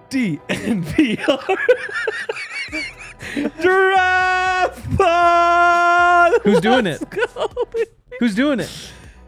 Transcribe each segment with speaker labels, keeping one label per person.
Speaker 1: DNVR Draft Pod.
Speaker 2: Who's doing it? Who's doing it?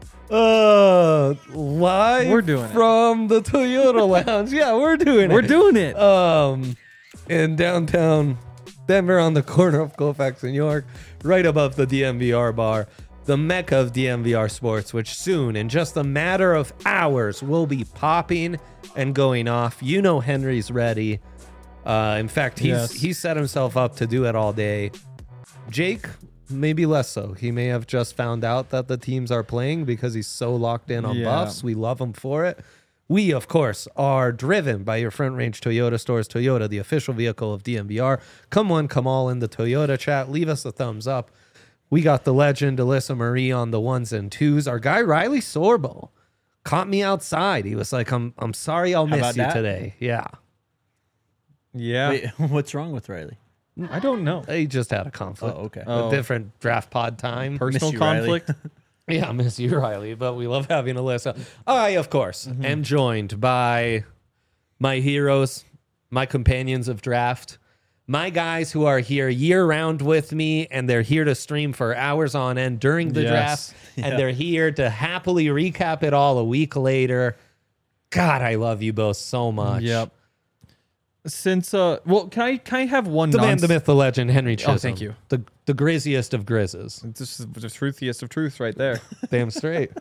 Speaker 1: Live
Speaker 2: We're doing it.
Speaker 1: from the Toyota Lounge. Yeah, we're doing it.
Speaker 2: We're doing it.
Speaker 1: In downtown Denver on the corner of Colfax and York, right above the DNVR bar, the mecca of DNVR sports, which soon, in just a matter of hours, will be popping and going off. You know Henry's ready. In fact, he's set himself up to do it all day. Jake, maybe less so. He may have just found out that the teams are playing because he's so locked in on buffs. We love him for it. We, of course, are driven by your Front Range Toyota stores. Toyota, the official vehicle of DNVR. Come on, come all in the Toyota chat. Leave us a thumbs up. We got the legend Alyssa Marie on the ones and twos. Our guy Riley Sorbo caught me outside. He was like, I'm sorry I'll miss you today. Yeah.
Speaker 2: Yeah.
Speaker 3: Wait, what's wrong with Riley?
Speaker 2: I don't know.
Speaker 1: He just had a conflict.
Speaker 3: Oh, okay.
Speaker 1: A different draft pod time.
Speaker 2: Personal
Speaker 3: Miss you, Riley.
Speaker 2: conflict.
Speaker 1: Yeah, I miss you, Riley, but we love having Alyssa. I, of course, am joined by my heroes, my companions of draft, my guys who are here year-round with me, and they're here to stream for hours on end during the draft, and they're here to happily recap it all a week later. God, I love you both so much.
Speaker 2: Yep. Since well, can I have one?
Speaker 1: The man, the myth, the legend, Henry Chisholm.
Speaker 2: thank you.
Speaker 1: The grizziest of grizzes.
Speaker 2: This is the truthiest of truths right there.
Speaker 1: Damn straight.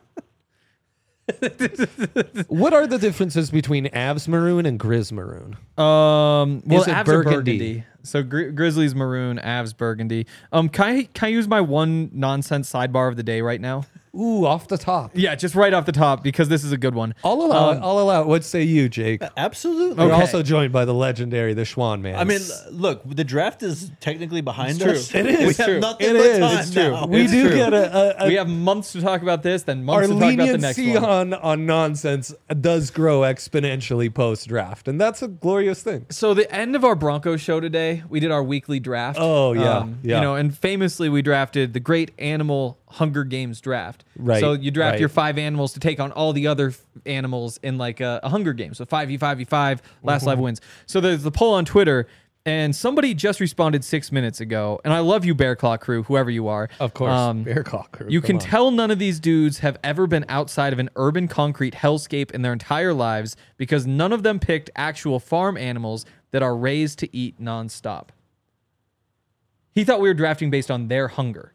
Speaker 1: What are the differences between Avs Maroon and Grizz Maroon?
Speaker 2: Well,
Speaker 1: Is it
Speaker 2: Avs
Speaker 1: burgundy?
Speaker 2: are burgundy. So Grizzlies maroon, Avs burgundy. Can I use my one nonsense sidebar of the day right now?
Speaker 1: Ooh, off the top.
Speaker 2: Yeah, just right off the top because this is a good one.
Speaker 1: I'll allow it. I'll allow it. What say you, Jake?
Speaker 3: Absolutely.
Speaker 1: We're
Speaker 2: Okay.
Speaker 1: also joined by the legendary, the Schwan Man.
Speaker 3: I mean, look, the draft is technically behind
Speaker 2: It's
Speaker 3: us.
Speaker 2: true.
Speaker 1: It is.
Speaker 3: We
Speaker 1: True.
Speaker 3: have nothing
Speaker 1: It
Speaker 3: but
Speaker 1: is.
Speaker 3: time
Speaker 1: It's
Speaker 2: true.
Speaker 3: now.
Speaker 1: we
Speaker 2: It's
Speaker 1: do
Speaker 2: true.
Speaker 1: get a
Speaker 2: We have months to talk about this, then
Speaker 1: our
Speaker 2: months to talk about the next
Speaker 1: leniency
Speaker 2: one.
Speaker 1: on nonsense does grow exponentially post draft, and that's a glorious thing.
Speaker 2: So the end of our Broncos show today, we did our weekly draft.
Speaker 1: Oh, yeah, yeah.
Speaker 2: You know, and famously we drafted the great animal Hunger Games draft.
Speaker 1: Right,
Speaker 2: So you draft
Speaker 1: right.
Speaker 2: your 5 animals to take on all the other animals in like a Hunger Games. So 5v5v5, last live wins. So there's the poll on Twitter, and somebody just responded 6 minutes ago. And I love you, Bear Claw crew, whoever you are.
Speaker 1: Of course, Bear Claw crew.
Speaker 2: You
Speaker 1: Come
Speaker 2: can
Speaker 1: on.
Speaker 2: tell none of these dudes have ever been outside of an urban concrete hellscape in their entire lives because none of them picked actual farm animals that are raised to eat nonstop. He thought we were drafting based on their hunger.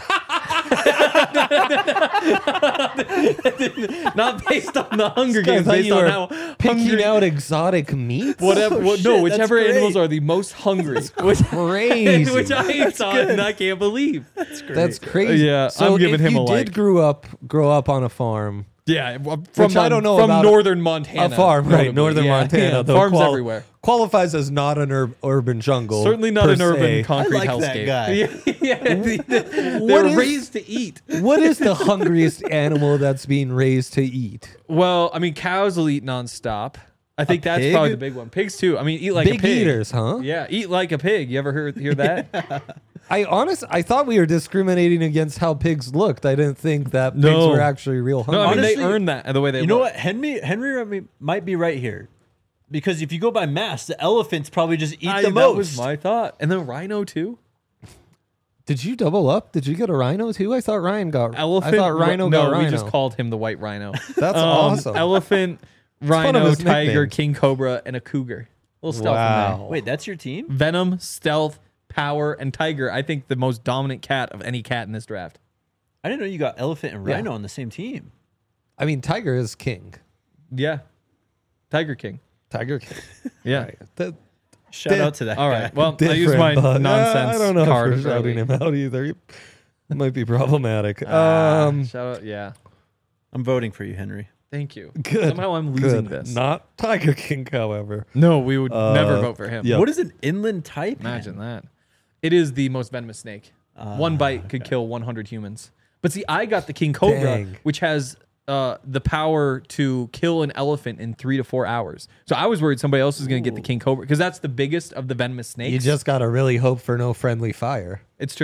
Speaker 2: Not based on the Hunger
Speaker 1: I
Speaker 2: Games,
Speaker 1: thought
Speaker 2: based
Speaker 1: you
Speaker 2: on
Speaker 1: were
Speaker 2: how
Speaker 1: picking
Speaker 2: hungry.
Speaker 1: out exotic meats.
Speaker 2: Whatever,
Speaker 3: shit,
Speaker 2: no,
Speaker 3: that's
Speaker 2: whichever
Speaker 3: great.
Speaker 2: animals are the most hungry, which
Speaker 1: Crazy.
Speaker 2: which I saw and I can't believe.
Speaker 1: That's crazy.
Speaker 2: Yeah,
Speaker 1: so
Speaker 2: I'm giving
Speaker 1: if
Speaker 2: him
Speaker 1: you
Speaker 2: a
Speaker 1: did
Speaker 2: like.
Speaker 1: grow up on a farm,
Speaker 2: Yeah,
Speaker 1: Which I don't know
Speaker 2: from
Speaker 1: about
Speaker 2: northern Montana,
Speaker 1: a farm, right?
Speaker 2: notably.
Speaker 1: Northern
Speaker 2: Yeah,
Speaker 1: Montana,
Speaker 2: yeah,
Speaker 1: though,
Speaker 2: farms everywhere.
Speaker 1: Qualifies as not an urban jungle.
Speaker 2: Certainly not
Speaker 1: per
Speaker 2: an urban
Speaker 1: se.
Speaker 2: concrete
Speaker 3: I like that
Speaker 2: hellscape.
Speaker 3: guy.
Speaker 2: Yeah,
Speaker 1: What
Speaker 2: they're
Speaker 1: is-
Speaker 2: raised to eat.
Speaker 1: What is the hungriest animal that's being raised to eat?
Speaker 2: Well, I mean, cows will eat nonstop. I think that's
Speaker 1: pig?
Speaker 2: probably the big one. Pigs too. I mean, eat like
Speaker 1: Big
Speaker 2: a pig.
Speaker 1: eaters, huh?
Speaker 2: Yeah, eat like a pig. You ever hear that?
Speaker 1: I thought we were discriminating against how pigs looked. I didn't think that pigs
Speaker 2: No.
Speaker 1: were actually real hungry.
Speaker 2: No, I mean
Speaker 3: Honestly,
Speaker 2: they earn that the way they.
Speaker 3: You know
Speaker 2: look.
Speaker 3: what? Henry might be right here. Because if you go by mass, the elephants probably just eat the
Speaker 2: That
Speaker 3: most.
Speaker 2: was my thought. And then rhino too.
Speaker 1: Did you double up? Did you get a rhino too? I thought Ryan got
Speaker 2: Elephant.
Speaker 1: I thought Rhino
Speaker 2: no,
Speaker 1: got rhino.
Speaker 2: we just called him the white rhino.
Speaker 1: That's awesome.
Speaker 2: Elephant,
Speaker 1: one of
Speaker 2: rhino,
Speaker 1: his
Speaker 2: tiger,
Speaker 1: nicknames.
Speaker 2: king cobra, and a cougar. Little stealth in
Speaker 1: Wow.
Speaker 2: there.
Speaker 3: Wait, that's your team?
Speaker 2: Venom, stealth, power, and tiger. I think the most dominant cat of any cat in this draft.
Speaker 3: I didn't know you got elephant and
Speaker 1: Yeah.
Speaker 3: rhino on the same team.
Speaker 1: I mean, Tiger is king.
Speaker 2: Yeah, Tiger King.
Speaker 1: Tiger king.
Speaker 2: Yeah.
Speaker 1: Right. That-
Speaker 3: Shout out to that
Speaker 2: All
Speaker 3: guy.
Speaker 2: right. Well, I use my
Speaker 1: different, but,
Speaker 2: nonsense
Speaker 1: I don't know
Speaker 2: card.
Speaker 1: if we're shouting
Speaker 2: early.
Speaker 1: him out either. It might be problematic.
Speaker 2: Shout out. Yeah.
Speaker 3: I'm voting for you, Henry.
Speaker 2: Thank you.
Speaker 1: Good.
Speaker 2: Somehow I'm losing
Speaker 1: Good.
Speaker 2: this.
Speaker 1: Not Tiger King, however.
Speaker 2: No, we would never vote for him.
Speaker 1: yeah.
Speaker 3: What is an inland type?
Speaker 2: Imagine that. It is the most venomous snake. One bite could kill 100 humans. But see, I got the king cobra,
Speaker 1: Dang.
Speaker 2: which has the power to kill an elephant in 3 to 4 hours. So I was worried somebody else was going to get the king cobra because that's the biggest of the venomous snakes.
Speaker 1: You just gotta really hope for no friendly fire.
Speaker 2: It's true.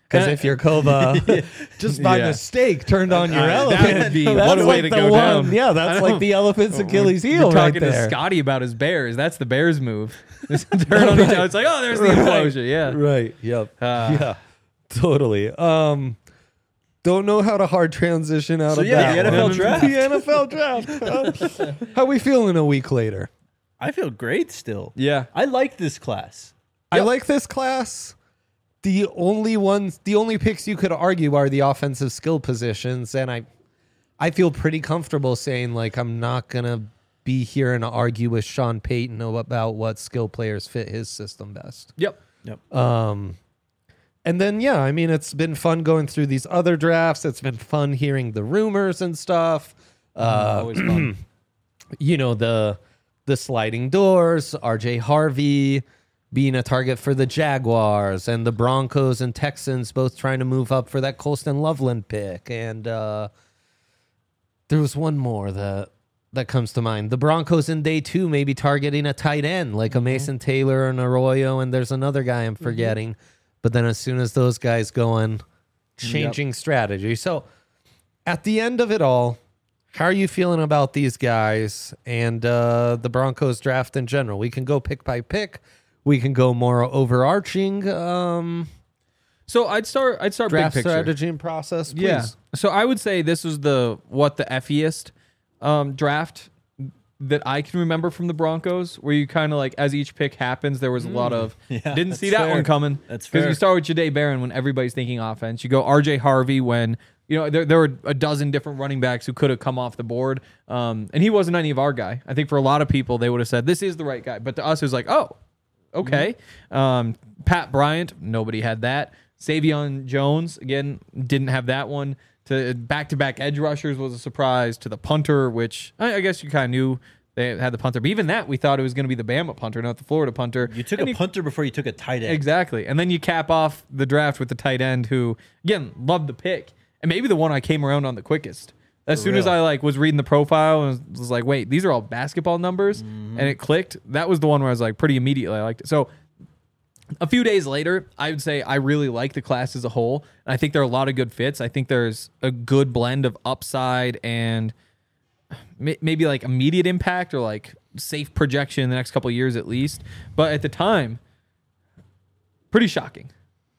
Speaker 1: Because if your Kova just by
Speaker 2: Yeah.
Speaker 1: mistake turned on your
Speaker 2: that
Speaker 1: elephant,
Speaker 2: would be-
Speaker 1: that's
Speaker 2: what a way
Speaker 1: like
Speaker 2: to
Speaker 1: the
Speaker 2: go
Speaker 1: one.
Speaker 2: down.
Speaker 1: Yeah, that's like the elephant's Achilles heel
Speaker 2: We're
Speaker 1: right
Speaker 2: talking to
Speaker 1: there.
Speaker 2: Scotty about his bears. That's the bears move. Turn on each other. It's like, oh, there's the implosion. Yeah.
Speaker 1: Right. Yep. Yeah. Totally. Don't know how to hard transition out
Speaker 3: So
Speaker 1: of
Speaker 3: yeah,
Speaker 1: that.
Speaker 3: the NFL
Speaker 1: one.
Speaker 3: draft.
Speaker 1: The NFL draft. How we feeling a week later?
Speaker 3: I feel great still.
Speaker 2: Yeah.
Speaker 3: I like this class.
Speaker 1: I like this class. The only picks you could argue are the offensive skill positions, and I feel pretty comfortable saying like I'm not gonna be here and argue with Sean Payton about what skill players fit his system best.
Speaker 2: Yep.
Speaker 1: And then yeah, I mean it's been fun going through these other drafts. It's been fun hearing the rumors and stuff.
Speaker 2: Always fun.
Speaker 1: You know, the sliding doors, RJ Harvey being a target for the Jaguars, and the Broncos and Texans both trying to move up for that Colston Loveland pick. And there was one more that comes to mind. The Broncos in day 2 maybe targeting a tight end like a Mason Taylor and Arroyo, and there's another guy I'm forgetting. But then as soon as those guys go in, changing strategy. So at the end of it all, how are you feeling about these guys and the Broncos draft in general? We can go pick by pick. We can go more overarching
Speaker 2: So I'd start big
Speaker 1: draft
Speaker 2: picture.
Speaker 1: strategy and process. Please.
Speaker 2: Yeah. So I would say this was the effiest draft that I can remember from the Broncos, where you kind of like, as each pick happens, there was a lot of didn't see
Speaker 3: that's
Speaker 2: that
Speaker 3: fair.
Speaker 2: one coming.
Speaker 3: That's
Speaker 2: Because
Speaker 3: fair.
Speaker 2: you start with Jahdae Barron when everybody's thinking offense. You go RJ Harvey when there were a dozen different running backs who could have come off the board, and he wasn't any of our guy. I think for a lot of people they would have said this is the right guy, but to us it was like, oh, okay. Pat Bryant, nobody had that. Savion Jones, again, didn't have that one. To back-to-back edge rushers was a surprise. To the punter, which I guess you kind of knew they had the punter. But even that, we thought it was going to be the Bama punter, not the Florida punter.
Speaker 3: You took
Speaker 2: And
Speaker 3: a punter before you took a tight end.
Speaker 2: Exactly. And then you cap off the draft with the tight end who, again, loved the pick. And maybe the one I came around on the quickest. As soon as I was reading the profile and was like, wait, these are all basketball numbers, and it clicked. That was the one where I was like, pretty immediately I liked it. So a few days later, I would say I really like the class as a whole. And I think there are a lot of good fits. I think there's a good blend of upside and maybe like immediate impact or like safe projection in the next couple of years at least. But at the time, pretty shocking.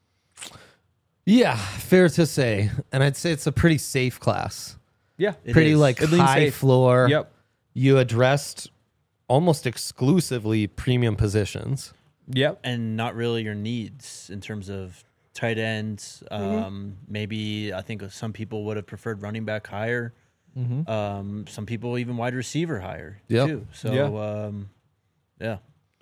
Speaker 1: Yeah, fair to say. And I'd say it's a pretty safe class.
Speaker 2: Yeah.
Speaker 1: Pretty
Speaker 3: is.
Speaker 1: like
Speaker 2: It leans
Speaker 1: high
Speaker 2: safe.
Speaker 1: floor.
Speaker 2: Yep.
Speaker 1: You addressed almost exclusively premium positions.
Speaker 2: Yep.
Speaker 3: And not really your needs in terms of tight ends. Maybe I think some people would have preferred running back higher. Some people even wide receiver higher
Speaker 1: Yep.
Speaker 3: too. So yeah.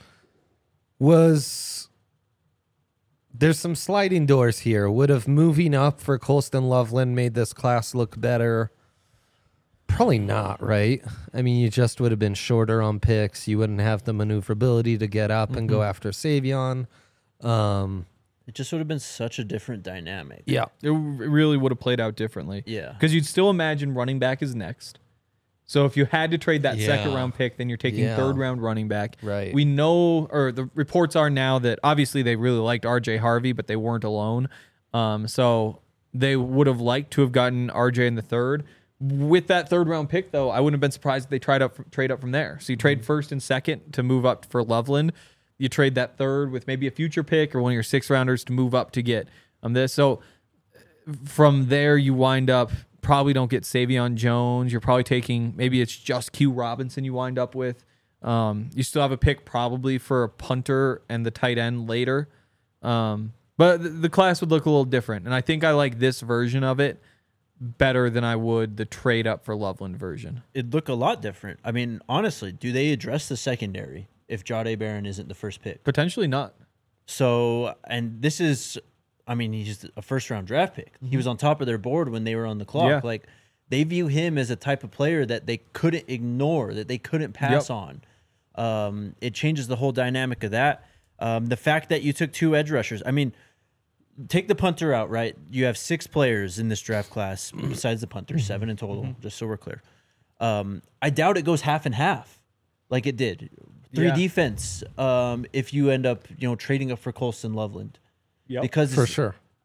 Speaker 1: There's some sliding doors here. Would have moving up for Colston Loveland made this class look better? Probably not, right? I mean, you just would have been shorter on picks. You wouldn't have the maneuverability to get up and go after Savion.
Speaker 3: It just would have been such a different dynamic.
Speaker 1: Yeah.
Speaker 2: It really would have played out differently.
Speaker 3: Yeah.
Speaker 2: Because you'd still imagine running back is next. So if you had to trade that second round pick, then you're taking third round running back.
Speaker 1: Right.
Speaker 2: We know, or the reports are now that obviously they really liked RJ Harvey, but they weren't alone. So they would have liked to have gotten RJ in the third. With that third round pick, though, I wouldn't have been surprised if they trade up from there. So you trade first and second to move up for Loveland. You trade that third with maybe a future pick or one of your 6th rounders to move up to get this. So from there, you wind up probably don't get Savion Jones. You're probably taking maybe it's just Q Robinson you wind up with. You still have a pick probably for a punter and the tight end later. But the class would look a little different. And I think I like this version of it better than I would the trade up for Loveland version.
Speaker 3: It'd look a lot different. I mean, honestly, do they address the secondary if Jahdae Barron isn't the first pick?
Speaker 2: Potentially not.
Speaker 3: So, and this is, I mean, he's a first-round draft pick. He was on top of their board when they were on the clock.
Speaker 2: Yeah.
Speaker 3: Like, they view him as a type of player that they couldn't ignore, that they couldn't pass on. It changes the whole dynamic of that. The fact that you took 2 edge rushers, I mean, take the punter out, right? You have 6 players in this draft class besides the punter, 7 in total, just so we're clear. I doubt it goes half and half like it did. 3
Speaker 2: Yeah.
Speaker 3: defense if you end up, trading up for Colston Loveland.
Speaker 2: Yep.
Speaker 3: Because
Speaker 1: For sure.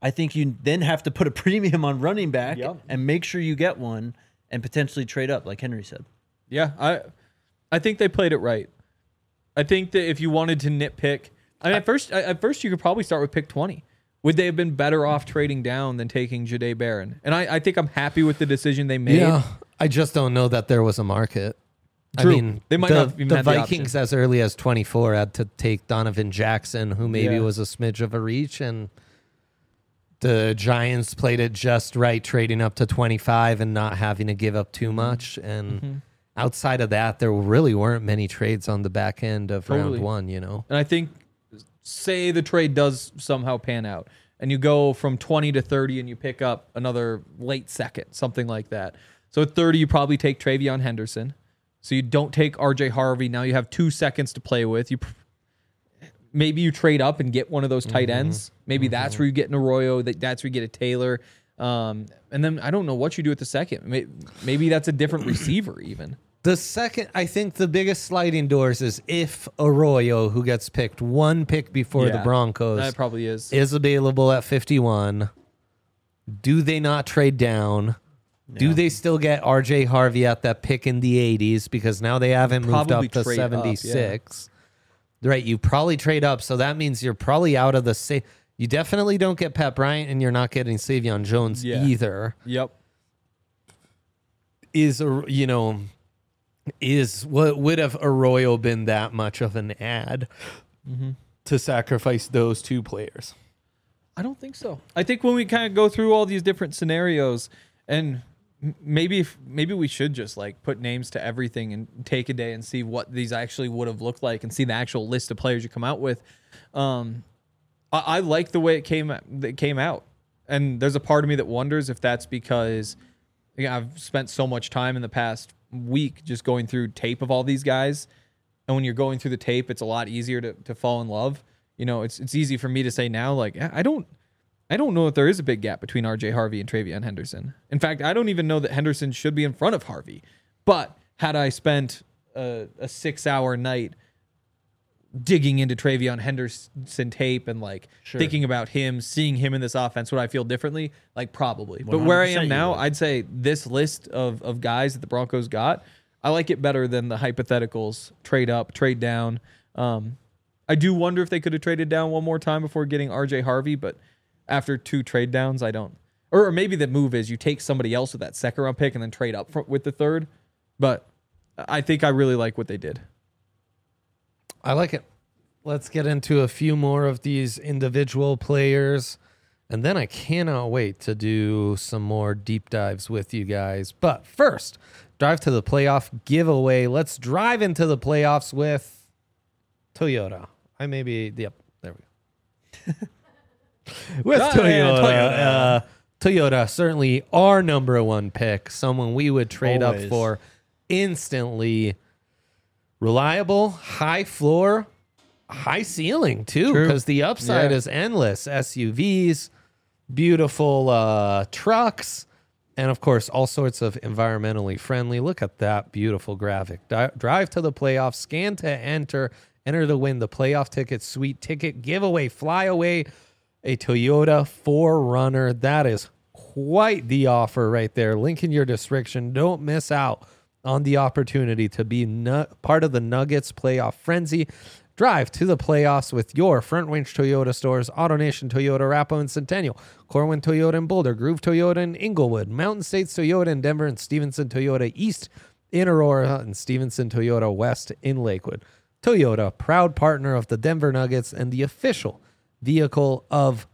Speaker 3: I think you then have to put a premium on running back
Speaker 2: Yep.
Speaker 3: and make sure you get one and potentially trade up, like Henry said.
Speaker 2: Yeah, I think they played it right. I think that if you wanted to nitpick, I mean, at first you could probably start with pick 20. Would they have been better off trading down than taking Jahdae Barron? And I think I'm happy with the decision they made.
Speaker 1: Yeah, I just don't know that there was a market.
Speaker 2: True.
Speaker 1: I mean,
Speaker 2: They might
Speaker 1: the,
Speaker 2: not even
Speaker 1: the
Speaker 2: have the
Speaker 1: Vikings as early as 24 had to take Donovan Jackson, who maybe
Speaker 2: Yeah.
Speaker 1: was a smidge of a reach, and the Giants played it just right, trading up to 25 and not having to give up too much. And outside of that, there really weren't many trades on the back end of
Speaker 2: Totally.
Speaker 1: round one, you know?
Speaker 2: And I think, say the trade does somehow pan out, and you go from 20 to 30 and you pick up another late second, something like that. So at 30, you probably take Travion Henderson. So you don't take RJ Harvey. Now you have 2 seconds to play with. Maybe you trade up and get one of those tight ends. Maybe that's where you get an Arroyo. That's where you get a Taylor. And then I don't know what you do at the second. Maybe that's a different receiver even.
Speaker 1: The second, I think the biggest sliding doors is if Arroyo, who gets picked one pick before the
Speaker 2: Yeah,
Speaker 1: Broncos,
Speaker 2: that probably is.
Speaker 1: available at 51, do they not trade down? Do they still get RJ Harvey at that pick in the 80s because now they haven't moved
Speaker 2: Probably
Speaker 1: up to
Speaker 2: trade up,
Speaker 1: 76? Right, you probably trade up, so that means you're probably out of the you definitely don't get Pat Bryant, and you're not getting Savion Jones either.
Speaker 2: Yep.
Speaker 1: Is what would have Arroyo been that much of an ad to sacrifice those two players?
Speaker 2: I don't think so. I think when we kind of go through all these different scenarios, and maybe we should just like put names to everything and take a day and see what these actually would have looked like and see the actual list of players you come out with. I like the way it came out, and there's a part of me that wonders if that's because I've spent so much time in the past week just going through tape of all these guys, and when you're going through the tape, it's a lot easier to fall in love. You know, it's easy for me to say now, like, I don't know if there is a big gap between RJ Harvey and Travion Henderson. In fact, I don't even know that Henderson should be in front of Harvey. But had I spent a 6-hour night digging into Travion Henderson tape and like thinking about him, seeing him in this offense, would I feel differently? Like probably. But where I am now, I'd say this list of guys that the Broncos got, I like it better than the hypotheticals, trade up, trade down. I do wonder if they could have traded down one more time before getting RJ Harvey, but after 2 trade downs, I don't. Or maybe the move is you take somebody else with that second round pick and then trade up with the third. But I think I really like what they did.
Speaker 1: I like it. Let's get into a few more of these individual players, and then I cannot wait to do some more deep dives with you guys. But first, drive to the playoff giveaway. Let's drive into the playoffs with Toyota. There we go. With Toyota. Toyota, certainly our number one pick, someone we would trade up for instantly. Reliable, high floor, high ceiling too, because the upside is endless. SUVs, beautiful trucks, and of course, all sorts of environmentally friendly. Look at that beautiful graphic. Drive to the playoffs, scan to enter to win the playoff ticket, sweet ticket giveaway, fly away a Toyota 4Runner. That is quite the offer right there. Link in your description. Don't miss out on the opportunity to be part of the Nuggets playoff frenzy. Drive to the playoffs with your Front Range Toyota stores, AutoNation Toyota, Arapahoe and Centennial, Corwin Toyota in Boulder, Groove Toyota in Inglewood, Mountain States Toyota in Denver, and Stevenson Toyota East in Aurora, and Stevenson Toyota West in Lakewood. Toyota, proud partner of the Denver Nuggets and the official vehicle of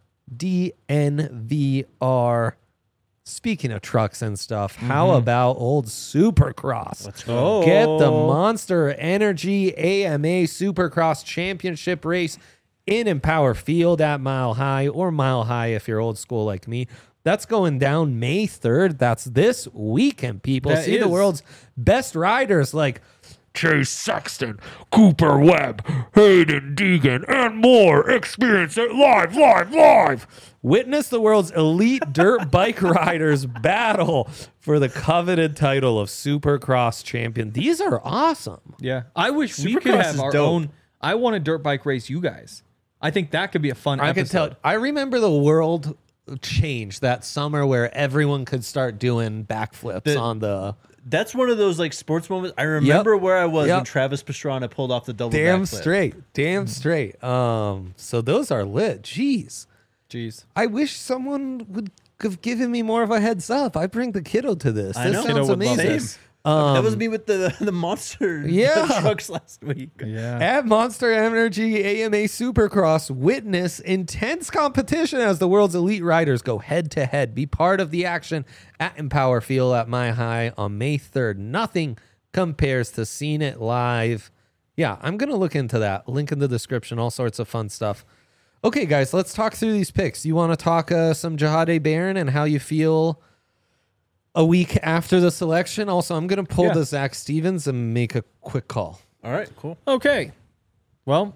Speaker 1: DNVR. Speaking of trucks and stuff, how about old Supercross?
Speaker 3: Let's go.
Speaker 1: Get the Monster Energy AMA Supercross Championship race in Empower Field at Mile High, or Mile High if you're old school like me. That's going down May 3rd. That's this weekend, people. See the world's best riders like Chase Sexton, Cooper Webb, Hayden Deegan, and more. Experience it live. Witness the world's elite dirt bike riders battle for the coveted title of Supercross champion. These are awesome.
Speaker 2: Yeah. I wish we could
Speaker 3: Supercross
Speaker 2: have
Speaker 3: is
Speaker 2: our
Speaker 3: dope.
Speaker 2: own. I want a dirt bike race, you guys. I think that could be a fun
Speaker 1: I
Speaker 2: episode.
Speaker 1: can tell. I remember the world changed that summer where everyone could start doing backflips on the.
Speaker 3: That's one of those like sports moments. I remember where I was
Speaker 1: Yep.
Speaker 3: when Travis Pastrana pulled off the double
Speaker 1: Damn
Speaker 3: backflip.
Speaker 1: straight. So those are lit. Jeez. I wish someone would have given me more of a heads up. I bring the kiddo to this.
Speaker 3: I
Speaker 1: This
Speaker 3: know.
Speaker 1: sounds
Speaker 2: Kiddo would love
Speaker 1: amazing.
Speaker 2: this.
Speaker 3: That was me with the monster
Speaker 1: Yeah.
Speaker 3: trucks last week.
Speaker 2: Yeah.
Speaker 1: At Monster Energy AMA Supercross, witness intense competition as the world's elite riders go head to head. Be part of the action at Empower Fuel at My High on May 3rd. Nothing compares to seeing it live. Yeah, I'm going to look into that. Link in the description, all sorts of fun stuff. Okay, guys, let's talk through these picks. You want to talk some Jahade Barron and how you feel a week after the selection? Also, I'm going to pull the Zach Stevens and make a quick call.
Speaker 3: All right, cool.
Speaker 2: Okay. Well,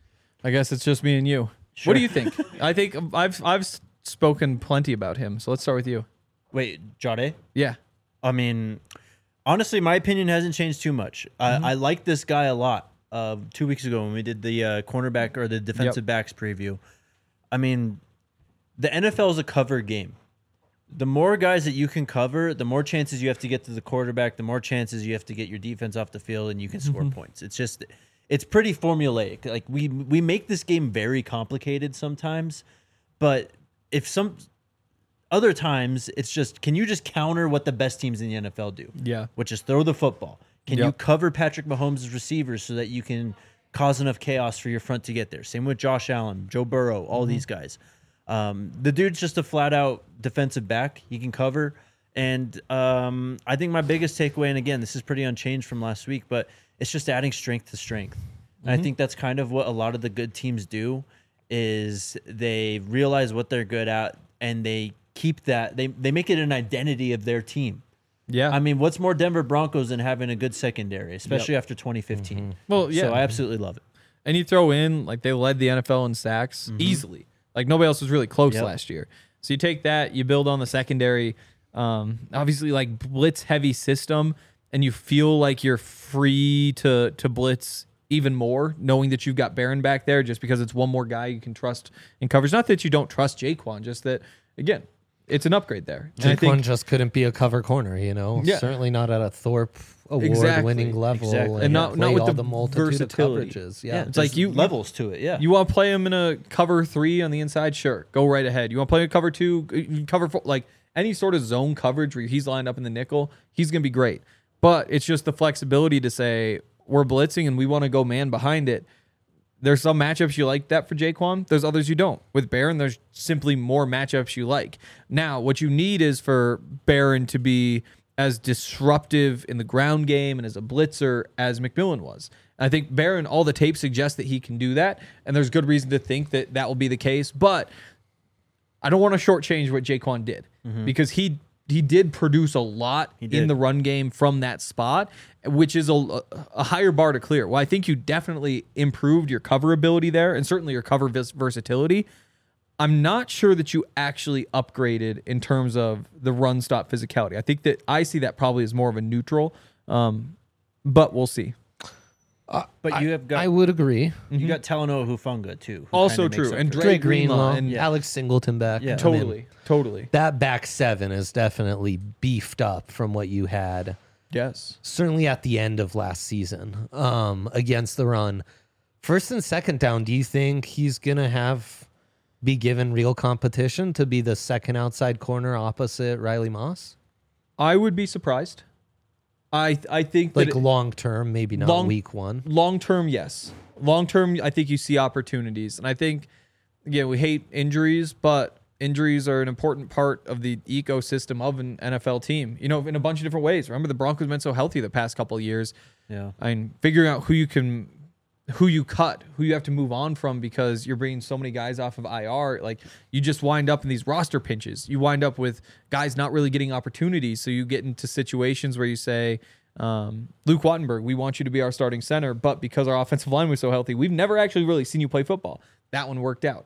Speaker 2: I guess it's just me and you.
Speaker 3: Sure.
Speaker 2: What do you think? I think I've spoken plenty about him. So let's start with you.
Speaker 3: Wait, Jade?
Speaker 2: Yeah.
Speaker 3: I mean, honestly, my opinion hasn't changed too much. I like this guy a lot. 2 weeks ago when we did the cornerback or the defensive backs preview, I mean, the NFL is a cover game. The more guys that you can cover, the more chances you have to get to the quarterback, the more chances you have to get your defense off the field, and you can score points. It's pretty formulaic. Like we make this game very complicated sometimes, but if some other times it's just, can you just counter what the best teams in the NFL do?
Speaker 2: Yeah.
Speaker 3: Which is throw the football. Can you
Speaker 2: Yep.
Speaker 3: cover Patrick Mahomes' receivers so that you can cause enough chaos for your front to get there? Same with Josh Allen, Joe Burrow, all these guys. The dude's just a flat-out defensive back. He can cover. And I think my biggest takeaway, and again, this is pretty unchanged from last week, but it's just adding strength to strength. And I think that's kind of what a lot of the good teams do, is they realize what they're good at, and they keep that. They make it an identity of their team.
Speaker 2: Yeah.
Speaker 3: I mean, what's more Denver Broncos than having a good secondary, especially after 2015?
Speaker 2: Well, yeah.
Speaker 3: So I absolutely love it.
Speaker 2: And you throw in, like, they led the NFL in sacks easily. Like, nobody else was really close
Speaker 3: Yep.
Speaker 2: last year. So you take that, you build on the secondary, obviously, like, blitz-heavy system, and you feel like you're free to blitz even more, knowing that you've got Barron back there just because it's one more guy you can trust in coverage. Not that you don't trust Jaquan, just that, again, it's an upgrade there. And I
Speaker 1: Jaquan
Speaker 2: think,
Speaker 1: just couldn't be a cover corner, you know?
Speaker 2: Yeah.
Speaker 1: Certainly not at a Thorpe
Speaker 2: Exactly.
Speaker 1: award-winning level.
Speaker 3: Exactly.
Speaker 2: And not
Speaker 1: played
Speaker 2: with
Speaker 1: all
Speaker 2: the
Speaker 1: the multitude
Speaker 2: versatility.
Speaker 1: of coverages.
Speaker 3: Yeah,
Speaker 1: Yeah.
Speaker 2: it's like
Speaker 3: there's levels to it. Yeah.
Speaker 2: You want to play him in a cover 3 on the inside? Sure. Go right ahead. You want to play a cover 2, cover 4, like any sort of zone coverage where he's lined up in the nickel, he's going to be great. But it's just the flexibility to say, we're blitzing and we want to go man behind it. There's some matchups you like that for Jaquan. There's others you don't. With Barron, there's simply more matchups you like. Now, what you need is for Barron to be as disruptive in the ground game and as a blitzer as McMillan was. I think Barron, all the tape suggests that he can do that, and there's good reason to think that that will be the case. But I don't want to shortchange what Jaquan did because he did produce a lot in the run game from that spot, which is a higher bar to clear. Well, I think you definitely improved your cover ability there and certainly your cover versatility. I'm not sure that you actually upgraded in terms of the run stop physicality. I think that I see that probably as more of a neutral, but we'll see.
Speaker 3: But you have got
Speaker 1: I would agree.
Speaker 3: you got Talanoa Hufanga too. who
Speaker 2: Also
Speaker 3: kinda makes
Speaker 2: true.
Speaker 3: up
Speaker 2: And
Speaker 3: for it.
Speaker 1: Dre
Speaker 2: Greenlaw
Speaker 1: Greenlaw
Speaker 2: and-
Speaker 1: Alex Singleton back.
Speaker 3: Yeah.
Speaker 1: I mean,
Speaker 2: Totally.
Speaker 1: that back seven is definitely beefed up from what you had
Speaker 2: Yes.
Speaker 1: certainly at the end of last season against the run. First and second down, do you think he's going to be given real competition to be the second outside corner opposite Riley Moss?
Speaker 2: I would be surprised. I think that
Speaker 1: Like long term, maybe not week one.
Speaker 2: long term, yes. Long term, I think you see opportunities. And I think, again, we hate injuries, but injuries are an important part of the ecosystem of an NFL team, you know, in a bunch of different ways. Remember, the Broncos have been so healthy the past couple of years.
Speaker 3: Yeah.
Speaker 2: I mean, figuring out who you cut, who you have to move on from because you're bringing so many guys off of IR. Like, you just wind up in these roster pinches. You wind up with guys not really getting opportunities. So you get into situations where you say, Luke Wattenberg, we want you to be our starting center, but because our offensive line was so healthy, we've never actually really seen you play football. That one worked out.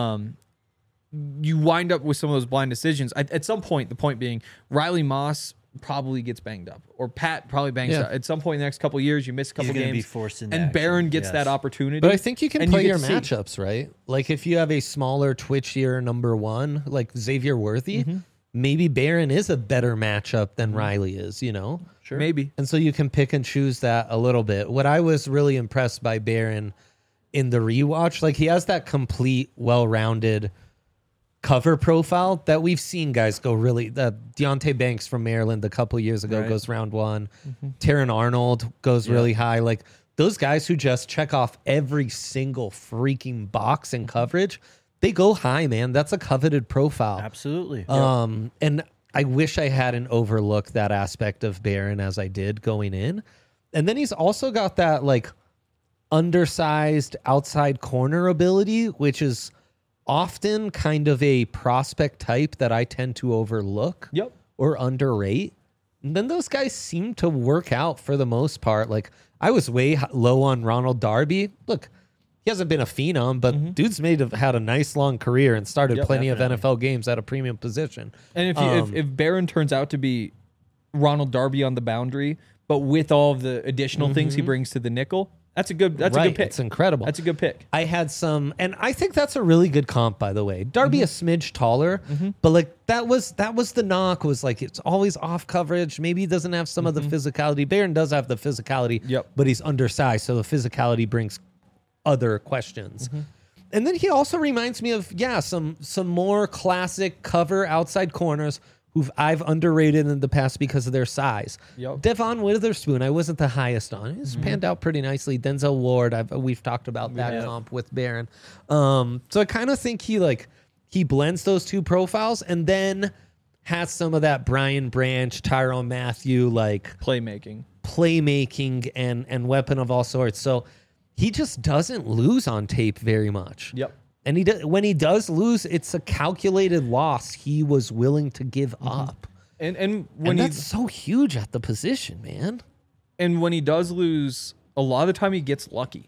Speaker 2: You wind up with some of those blind decisions. At some point, the point being, Riley Moss probably gets banged up, or Pat probably bangs
Speaker 1: Yeah.
Speaker 2: up at some point in the next couple of years. You miss a couple
Speaker 3: gonna be
Speaker 2: games,
Speaker 3: forced into
Speaker 2: and
Speaker 3: action.
Speaker 2: Barron gets
Speaker 3: Yes.
Speaker 2: that opportunity.
Speaker 1: But I think you can
Speaker 2: and
Speaker 1: play
Speaker 2: get
Speaker 1: your
Speaker 2: to see.
Speaker 1: matchups, right? Like if you have a smaller, twitchier number one, like Xavier Worthy, maybe Barron is a better matchup than Riley is, you know?
Speaker 3: Sure.
Speaker 2: Maybe.
Speaker 1: And so you can pick and choose that a little bit. What I was really impressed by Barron in the rewatch, like he has that complete, well-rounded cover profile that we've seen guys go really. Deontay Banks from Maryland a couple years ago
Speaker 3: Right.
Speaker 1: goes round one. Taron Arnold goes really high. Like those guys who just check off every single freaking box in coverage, they go high, man. That's a coveted profile.
Speaker 3: Absolutely.
Speaker 1: And I wish I hadn't overlooked that aspect of Barron as I did going in. And then he's also got that like undersized outside corner ability, which is often kind of a prospect type that I tend to overlook
Speaker 2: Yep.
Speaker 1: or underrate. And then those guys seem to work out for the most part. Like I was way low on Ronald Darby. Look, he hasn't been a phenom, but dude's had a nice long career and started
Speaker 2: Yep,
Speaker 1: plenty
Speaker 3: definitely.
Speaker 1: of NFL games at a premium position.
Speaker 2: And if Barron turns out to be Ronald Darby on the boundary, but with all of the additional things he brings to the nickel, that's a good
Speaker 1: Right,
Speaker 2: good pick.
Speaker 1: it's incredible.
Speaker 2: That's a good pick.
Speaker 1: I had some, and I think that's a really good comp, by the way. Darby a smidge taller, but like that was the knock, was like it's always off coverage. Maybe he doesn't have some of the physicality. Barron does have the physicality,
Speaker 2: Yep.
Speaker 1: but he's undersized, so the physicality brings other questions. And then he also reminds me of some more classic cover outside corners who I've underrated in the past because of their size.
Speaker 2: Yep.
Speaker 1: Devon Witherspoon, I wasn't the highest on. He's panned out pretty nicely. Denzel Ward, we've talked about that comp with Barron. So I kind of think he blends those two profiles and then has some of that Brian Branch, Tyrone Matthew
Speaker 2: Playmaking.
Speaker 1: playmaking and weapon of all sorts. So he just doesn't lose on tape very much.
Speaker 2: Yep.
Speaker 1: And when he does lose, it's a calculated loss he was willing to give up.
Speaker 2: And
Speaker 1: And
Speaker 2: when
Speaker 1: that's so huge at the position, man.
Speaker 2: when he does lose, a lot of the time he gets lucky,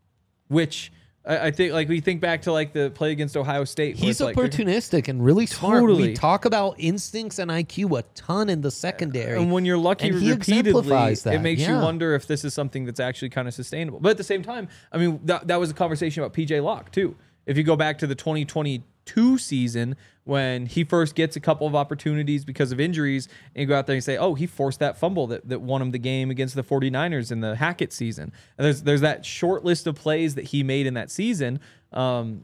Speaker 2: which I think, like, we think back to like the play against Ohio State. where
Speaker 1: He's
Speaker 2: it's like,
Speaker 1: opportunistic and really smart.
Speaker 2: Totally.
Speaker 1: We talk about instincts and IQ a ton in the secondary.
Speaker 2: and when you're lucky
Speaker 1: And he
Speaker 2: repeatedly,
Speaker 1: exemplifies that,
Speaker 2: it makes you
Speaker 1: yeah.
Speaker 2: wonder if this is something that's actually kind of sustainable. But at the same time, I mean, that was a conversation about PJ Locke too. If you go back to the 2022 season when he first gets a couple of opportunities because of injuries, and you go out there and say, oh, he forced that fumble that won him the game against the 49ers in the Hackett season. And there's that short list of plays that he made in that season. In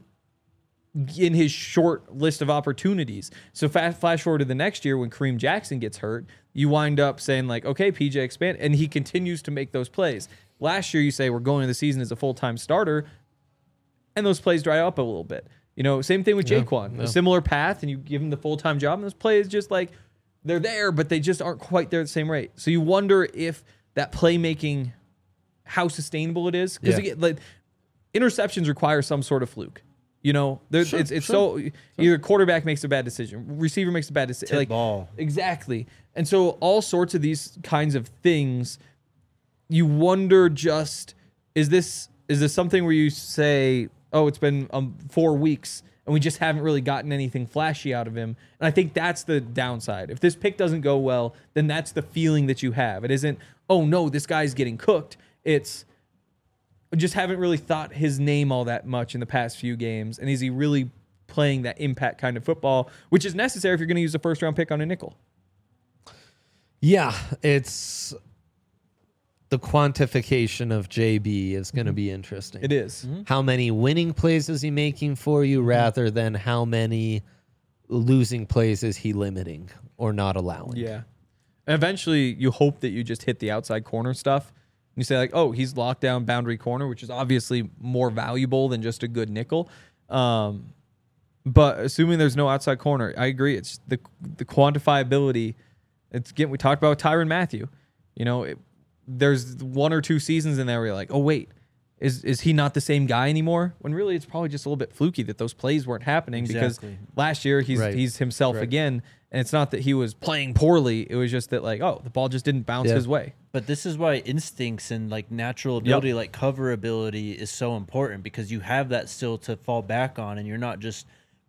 Speaker 2: his short list of opportunities. So flash forward to the next year when Kareem Jackson gets hurt, you wind up saying like, okay, PJ expand, and he continues to make those plays. Last year you say we're going into the season as a full-time starter, and those plays dry up a little bit. You know, same thing with Jaquan. A similar path, and you give him the full-time job, and those plays just like, they're there, but they just aren't quite there at the same rate. So you wonder if that playmaking, how sustainable it is. Because like, interceptions require some sort of fluke. You know, so either quarterback makes a bad decision, receiver makes a bad decision,
Speaker 3: Tip ball.
Speaker 2: Exactly. And so all sorts of these kinds of things, you wonder just, is this something where you say, oh, it's been 4 weeks and we just haven't really gotten anything flashy out of him. And I think that's the downside. If this pick doesn't go well, then that's the feeling that you have. It isn't, oh no, this guy's getting cooked. It's, just haven't really thought his name all that much in the past few games. And is he really playing that impact kind of football, which is necessary if you're going to use a first round pick on a nickel?
Speaker 1: Yeah, it's the quantification of JB is going to be interesting.
Speaker 2: It is.
Speaker 1: How many winning plays is he making for you rather than how many losing plays is he limiting or not allowing?
Speaker 2: Yeah. And eventually you hope that you just hit the outside corner stuff. You say like, oh, he's locked down boundary corner, which is obviously more valuable than just a good nickel. But assuming there's no outside corner, I agree. It's the quantifiability. It's again, we talked about Tyrann Mathieu. You know, there's 1 or 2 seasons in there where you're like, oh wait, is he not the same guy anymore? When really it's probably just a little bit fluky that those plays weren't happening because last year he's himself again. And it's not that he was playing poorly. It was just that like, oh, the ball just didn't bounce his way.
Speaker 3: But this is why instincts and like natural ability, like cover ability, is so important because you have that still to fall back on, and you're not just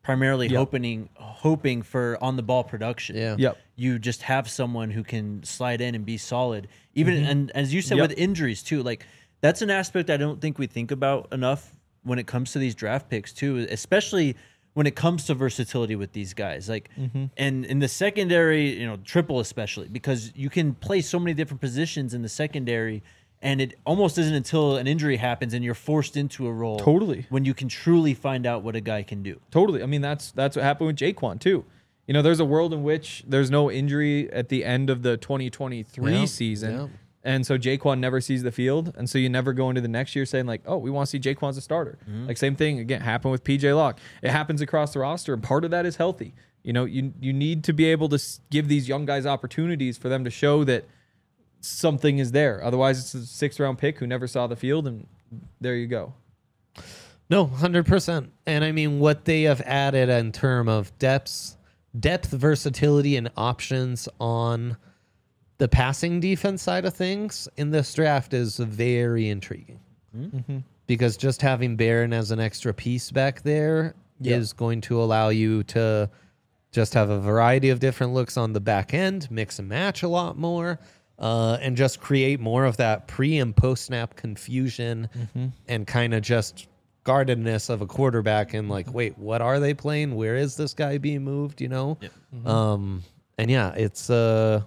Speaker 3: primarily
Speaker 2: Yep.
Speaker 3: hoping for on the ball production.
Speaker 1: Yeah.
Speaker 2: Yep.
Speaker 3: You just have someone who can slide in and be solid. Even and as you said
Speaker 2: Yep.
Speaker 3: with injuries too, like that's an aspect I don't think we think about enough when it comes to these draft picks too, especially when it comes to versatility with these guys. Like and in the secondary, triple especially, because you can play so many different positions in the secondary. And it almost isn't until an injury happens and you're forced into a role
Speaker 2: Totally.
Speaker 3: when you can truly find out what a guy can do.
Speaker 2: Totally. I mean, that's what happened with Jaquan too. There's a world in which there's no injury at the end of the 2023
Speaker 1: Yeah,
Speaker 2: season.
Speaker 1: yeah.
Speaker 2: And so Jaquan never sees the field. And so you never go into the next year saying like, oh, we want to see Jaquan as a starter. Like same thing, again, happened with PJ Locke. It happens across the roster. And part of that is healthy. You need to be able to give these young guys opportunities for them to show that something is there. Otherwise, it's a 6th round pick who never saw the field. And there you go.
Speaker 1: No, 100%. And I mean, what they have added in terms of depth, versatility, and options on the passing defense side of things in this draft is very intriguing. Because just having Barron as an extra piece back there is going to allow you to just have a variety of different looks on the back end, mix and match a lot more, and just create more of that pre and post snap confusion and kind of just guardedness of a quarterback and like, wait, what are they playing? Where is this guy being moved? And yeah, it's an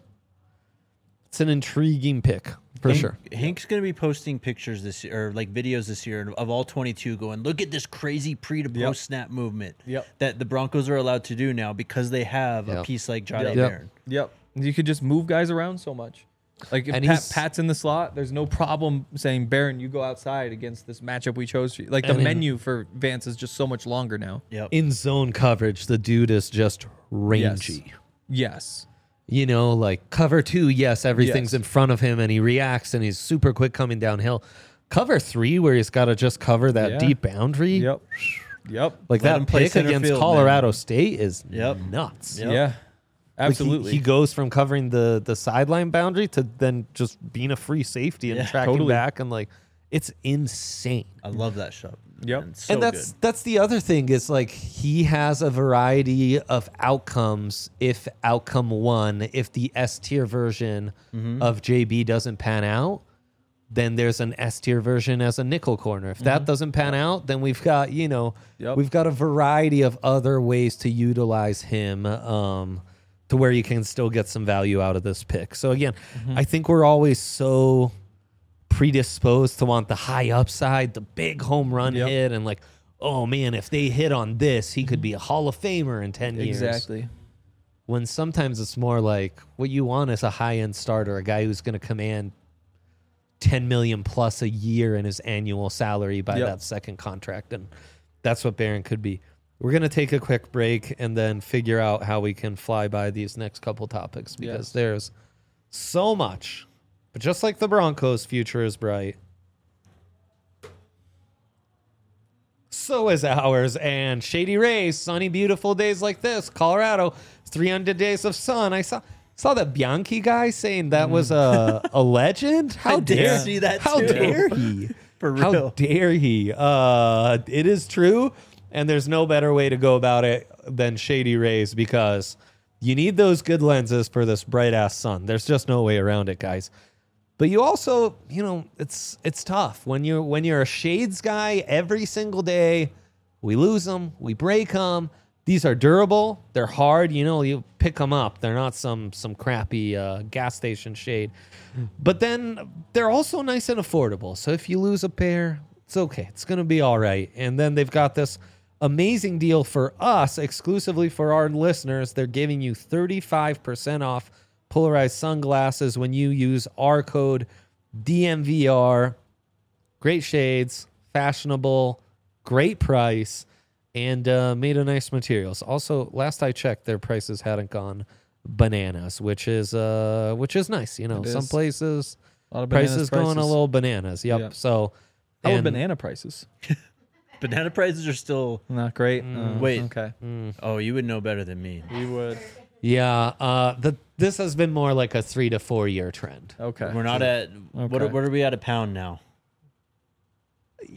Speaker 1: intriguing pick for sure.
Speaker 3: Hank's going to be posting pictures this year, or like videos this year of all 22 going, look at this crazy pre to post snap movement that the Broncos are allowed to do now because they have a piece like Jahdae Barron.
Speaker 2: Yep. You could just move guys around so much. Like if Pat's in the slot, there's no problem saying, Barron, you go outside against this matchup we chose for you. Like the menu for Vance is just so much longer now.
Speaker 3: Yep.
Speaker 1: In zone coverage, the dude is just rangy.
Speaker 2: Yes.
Speaker 1: Like cover 2, yes, everything's
Speaker 2: Yes.
Speaker 1: in front of him and he reacts and he's super quick coming downhill. Cover 3, where he's got to just cover that deep boundary.
Speaker 2: Yep.
Speaker 1: Like
Speaker 3: Let him
Speaker 1: that
Speaker 3: play
Speaker 1: pick
Speaker 3: center
Speaker 1: against
Speaker 3: field,
Speaker 1: Colorado State is
Speaker 3: Yep.
Speaker 1: nuts.
Speaker 3: Yep.
Speaker 2: Yeah.
Speaker 1: Like,
Speaker 2: Absolutely.
Speaker 1: he goes from covering the sideline boundary to then just being a free safety and tracking
Speaker 2: Totally.
Speaker 1: back, and like it's insane.
Speaker 3: I love that shot.
Speaker 2: Yep.
Speaker 3: Man. So
Speaker 1: And that's the other thing is like he has a variety of outcomes. If outcome 1, if the S tier version of JB doesn't pan out, then there's an S tier version as a nickel corner. If that doesn't pan out, then we've got we've got a variety of other ways to utilize him to where you can still get some value out of this pick. So again, I think we're always so predisposed to want the high upside, the big home run hit, and like, oh man, if they hit on this, he could be a Hall of Famer in 10 years.
Speaker 2: Exactly.
Speaker 1: When sometimes it's more like what you want is a high-end starter, a guy who's going to command $10 million plus a year in his annual salary by that second contract, and that's what Barron could be. We're going to take a quick break and then figure out how we can fly by these next couple topics because there's so much. But just like the Broncos' future is bright, so is ours. And Shady Rays, sunny, beautiful days like this. Colorado, 300 days of sun. I saw that Bianchi guy saying that was a legend. How
Speaker 3: did
Speaker 1: dare
Speaker 3: see that
Speaker 1: How
Speaker 3: too.
Speaker 1: dare he?
Speaker 3: For
Speaker 1: How
Speaker 3: real.
Speaker 1: dare he? It is true, and there's no better way to go about it than Shady Rays because you need those good lenses for this bright ass sun. There's just no way around it, guys. But you also, it's tough when you're a shades guy every single day. We lose them, we break them. These are durable. They're hard. You pick them up. They're not some crappy gas station shade. But then they're also nice and affordable. So if you lose a pair, it's okay. It's going to be all right. And then they've got this amazing deal for us, exclusively for our listeners. They're giving you 35% off polarized sunglasses when you use our code DMVR. Great shades, fashionable, great price, and made of nice materials. Also, last I checked, their prices hadn't gone bananas, which is nice. Some
Speaker 2: is.
Speaker 1: places
Speaker 2: A lot of bananas
Speaker 1: prices going a little bananas. Yep.
Speaker 2: Yeah.
Speaker 1: So
Speaker 2: How are
Speaker 1: and-
Speaker 2: banana prices?
Speaker 3: Banana prices are still.
Speaker 2: Not great.
Speaker 3: Wait.
Speaker 2: Okay.
Speaker 3: Oh, you would know better than me.
Speaker 2: We would.
Speaker 1: Yeah, this has been more like a 3 to 4 year trend.
Speaker 2: Okay.
Speaker 3: We're not at.
Speaker 2: Okay.
Speaker 3: What are we at a pound now?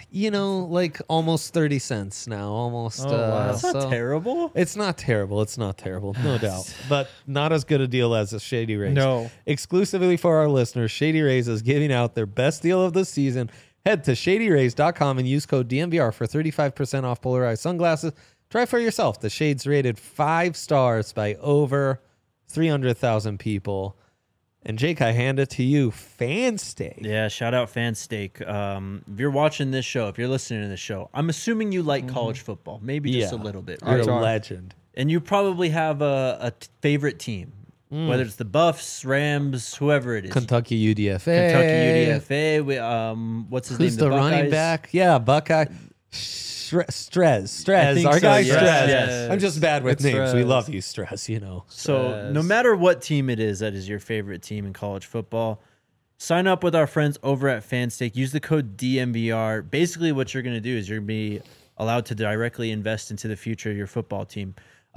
Speaker 1: like almost 30 cents now. Almost.
Speaker 2: Oh, wow.
Speaker 3: That's not terrible.
Speaker 1: It's not terrible. It's not terrible, no doubt. But not as good a deal as a Shady Rays.
Speaker 2: No.
Speaker 1: Exclusively for our listeners, Shady Rays is giving out their best deal of the season. Head to shadyrays.com and use code DMVR for 35% off polarized sunglasses. Try for yourself. The shades rated 5 stars by over 300,000 people. And Jake, I hand it to you. Fansteak.
Speaker 3: Yeah, shout out Fansteak. If you're watching this show, if you're listening to this show, I'm assuming you like college football, maybe just a little bit.
Speaker 1: You're
Speaker 3: Right?
Speaker 1: a legend.
Speaker 3: And you probably have a favorite team, whether it's the Buffs, Rams, whoever it is.
Speaker 1: Kentucky UDFA.
Speaker 3: Kentucky UDFA. What's his
Speaker 1: Who's
Speaker 3: name?
Speaker 1: the running
Speaker 3: Buckeyes?
Speaker 1: back? Yeah, Buckeye. Strez.
Speaker 3: I think
Speaker 1: Our
Speaker 3: so,
Speaker 1: guy
Speaker 3: yes,
Speaker 1: Strez.
Speaker 3: yes.
Speaker 1: I'm just bad with
Speaker 2: It's
Speaker 1: names. We
Speaker 2: Strez.
Speaker 1: love you, Strez,
Speaker 3: So no matter what team it is that is your favorite team in college football, sign up with our friends over at Fanstake. Use the code DMVR. Basically, what you're going to do is you're going to be allowed to directly invest into the future of your football team.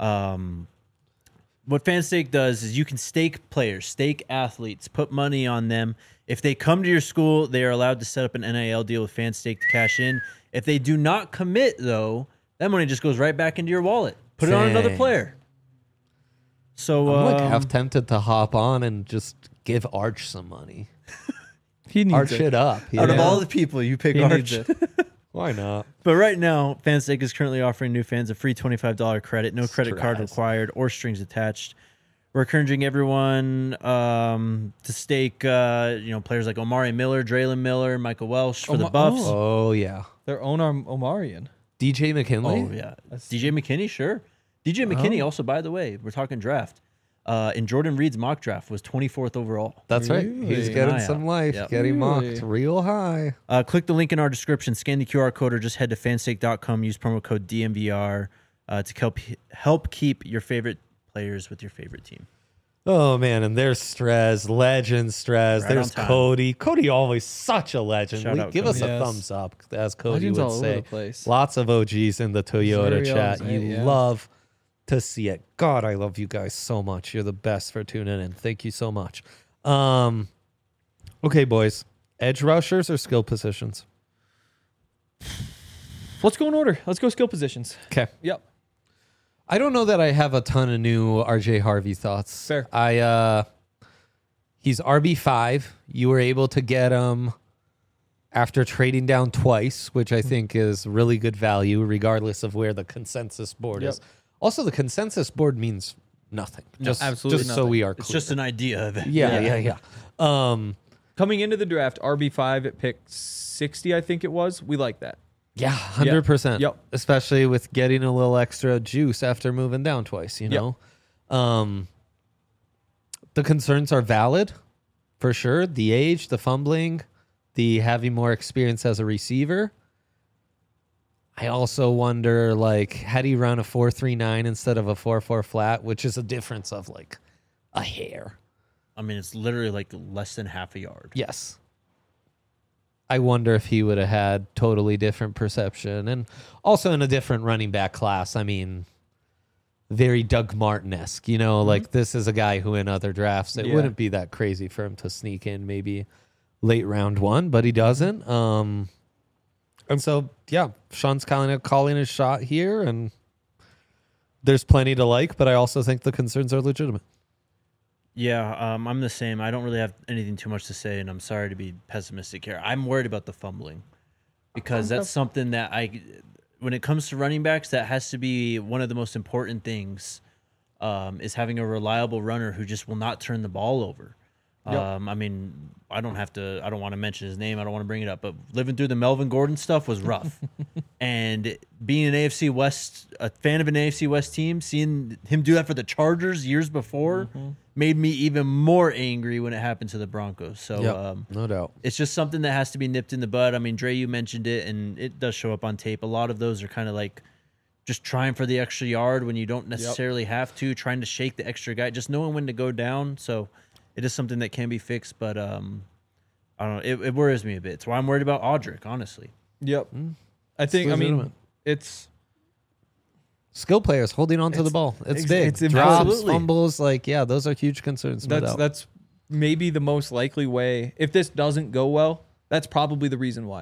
Speaker 3: What Fanstake does is you can stake players, stake athletes, put money on them. If they come to your school, they are allowed to set up an NIL deal with Fanstake to cash in. If they do not commit, though, that money just goes right back into your wallet. Put it on another
Speaker 1: Dang.
Speaker 3: player. So
Speaker 1: I'm half tempted to hop on and just give Arch some money.
Speaker 2: He needs
Speaker 1: Arch
Speaker 2: it.
Speaker 1: it up.
Speaker 3: out of
Speaker 1: know?
Speaker 3: all the people, you pick
Speaker 2: He
Speaker 3: Arch.
Speaker 2: needs it.
Speaker 1: Why not?
Speaker 3: But right now, Fanstake is currently offering new fans a free $25 credit, no credit card
Speaker 1: Stress.
Speaker 3: required or strings attached. We're encouraging everyone to stake, players like Omari Miller, Draylon Miller, Michael Welsh for the Buffs.
Speaker 1: Oh, yeah.
Speaker 2: Their own Omarion.
Speaker 1: DJ McKinley?
Speaker 3: Oh, yeah. DJ McKinney, sure. DJ McKinney also, by the way, we're talking draft. In Jordan Reed's mock draft was 24th overall.
Speaker 1: That's right. He's
Speaker 2: Really?
Speaker 1: getting
Speaker 3: High
Speaker 1: some
Speaker 3: out.
Speaker 1: life,
Speaker 3: Yep.
Speaker 1: getting
Speaker 2: Really?
Speaker 1: mocked real high.
Speaker 3: Click the link in our description, scan the QR code, or just head to fanstake.com. Use promo code DMVR to help keep your favorite players with your favorite team.
Speaker 1: Oh, man. And there's Strez, legend Strez.
Speaker 3: Right
Speaker 1: There's
Speaker 3: on time.
Speaker 1: Cody. Cody always such a legend.
Speaker 3: Shout out
Speaker 1: Give us
Speaker 3: Cody.
Speaker 1: a
Speaker 2: Yes.
Speaker 1: thumbs up, as Cody
Speaker 2: Legends
Speaker 1: would
Speaker 2: all over
Speaker 1: say.
Speaker 2: the place.
Speaker 1: Lots of OGs in the Toyota
Speaker 2: Very
Speaker 1: chat.
Speaker 2: well
Speaker 1: You
Speaker 2: said, yeah.
Speaker 1: love to see it. God, I love you guys so much. You're the best for tuning in. Thank you so much. Okay, boys. Edge rushers or skill positions?
Speaker 2: Let's go in order. Let's go skill positions.
Speaker 1: Okay.
Speaker 2: Yep.
Speaker 1: I don't know that I have a ton of new RJ Harvey thoughts.
Speaker 2: Fair.
Speaker 1: He's RB5. You were able to get him after trading down twice, which I think is really good value, regardless of where the consensus board is.
Speaker 2: Yep.
Speaker 1: Also, the consensus board means nothing. Just,
Speaker 2: absolutely
Speaker 1: just so
Speaker 2: nothing.
Speaker 1: we are clear.
Speaker 3: It's just an idea of it.
Speaker 1: yeah.
Speaker 2: Coming into the draft, RB5 at pick 60, I think it was. We like that.
Speaker 1: Yeah, 100%.
Speaker 2: Yep.
Speaker 1: Especially with getting a little extra juice after moving down twice, you know? The concerns are valid, for sure. The age, the fumbling, the having more experience as a receiver. I also wonder, had he run a 4.39 instead of a 4.4 flat, which is a difference of, a hair.
Speaker 3: I mean, it's literally less than half a yard.
Speaker 1: Yes. I wonder if he would have had totally different perception. And also in a different running back class. I mean, very Doug Martin-esque, this is a guy who in other drafts, it
Speaker 2: Yeah.
Speaker 1: wouldn't be that crazy for him to sneak in maybe late round one, but he doesn't. And so, yeah, Sean's kind of calling his shot here, and there's plenty to like, but I also think the concerns are legitimate.
Speaker 3: Yeah, I'm the same. I don't really have anything too much to say, and I'm sorry to be pessimistic here. I'm worried about the fumbling because that's something that when it comes to running backs, that has to be one of the most important things, is having a reliable runner who just will not turn the ball over.
Speaker 2: Yep.
Speaker 3: I mean, I don't want to mention his name. I don't want to bring it up, but living through the Melvin Gordon stuff was rough. And being a fan of an AFC West team, seeing him do that for the Chargers years before made me even more angry when it happened to the Broncos. So,
Speaker 1: No doubt.
Speaker 3: it's just something that has to be nipped in the bud. I mean, Dre, you mentioned it, and it does show up on tape. A lot of those are kind of just trying for the extra yard when you don't necessarily have to, trying to shake the extra guy, just knowing when to go down. So it is something that can be fixed, but I don't know. It worries me a bit. It's why I'm worried about Audric, honestly.
Speaker 2: Yep. I think,
Speaker 1: legitimate.
Speaker 2: it's
Speaker 1: Skill players holding on to the ball. It's big.
Speaker 2: it's
Speaker 1: Drops,
Speaker 3: absolutely.
Speaker 1: fumbles, those are huge concerns. No doubt.
Speaker 2: that's maybe the most likely way. If this doesn't go well, that's probably the reason why.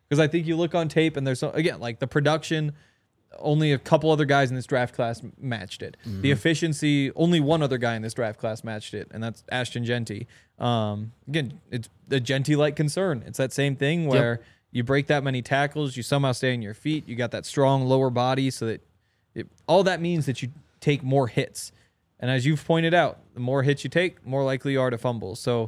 Speaker 2: Because I think you look on tape and there's again, like the production, only a couple other guys in this draft class matched it. The efficiency, only one other guy in this draft class matched it, and that's Ashton Genty. Again, it's a Genty-like concern. It's that same thing where you break that many tackles, you somehow stay on your feet, you got that strong lower body, so that all that means that you take more hits. And as you've pointed out, the more hits you take, more likely you are to fumble. So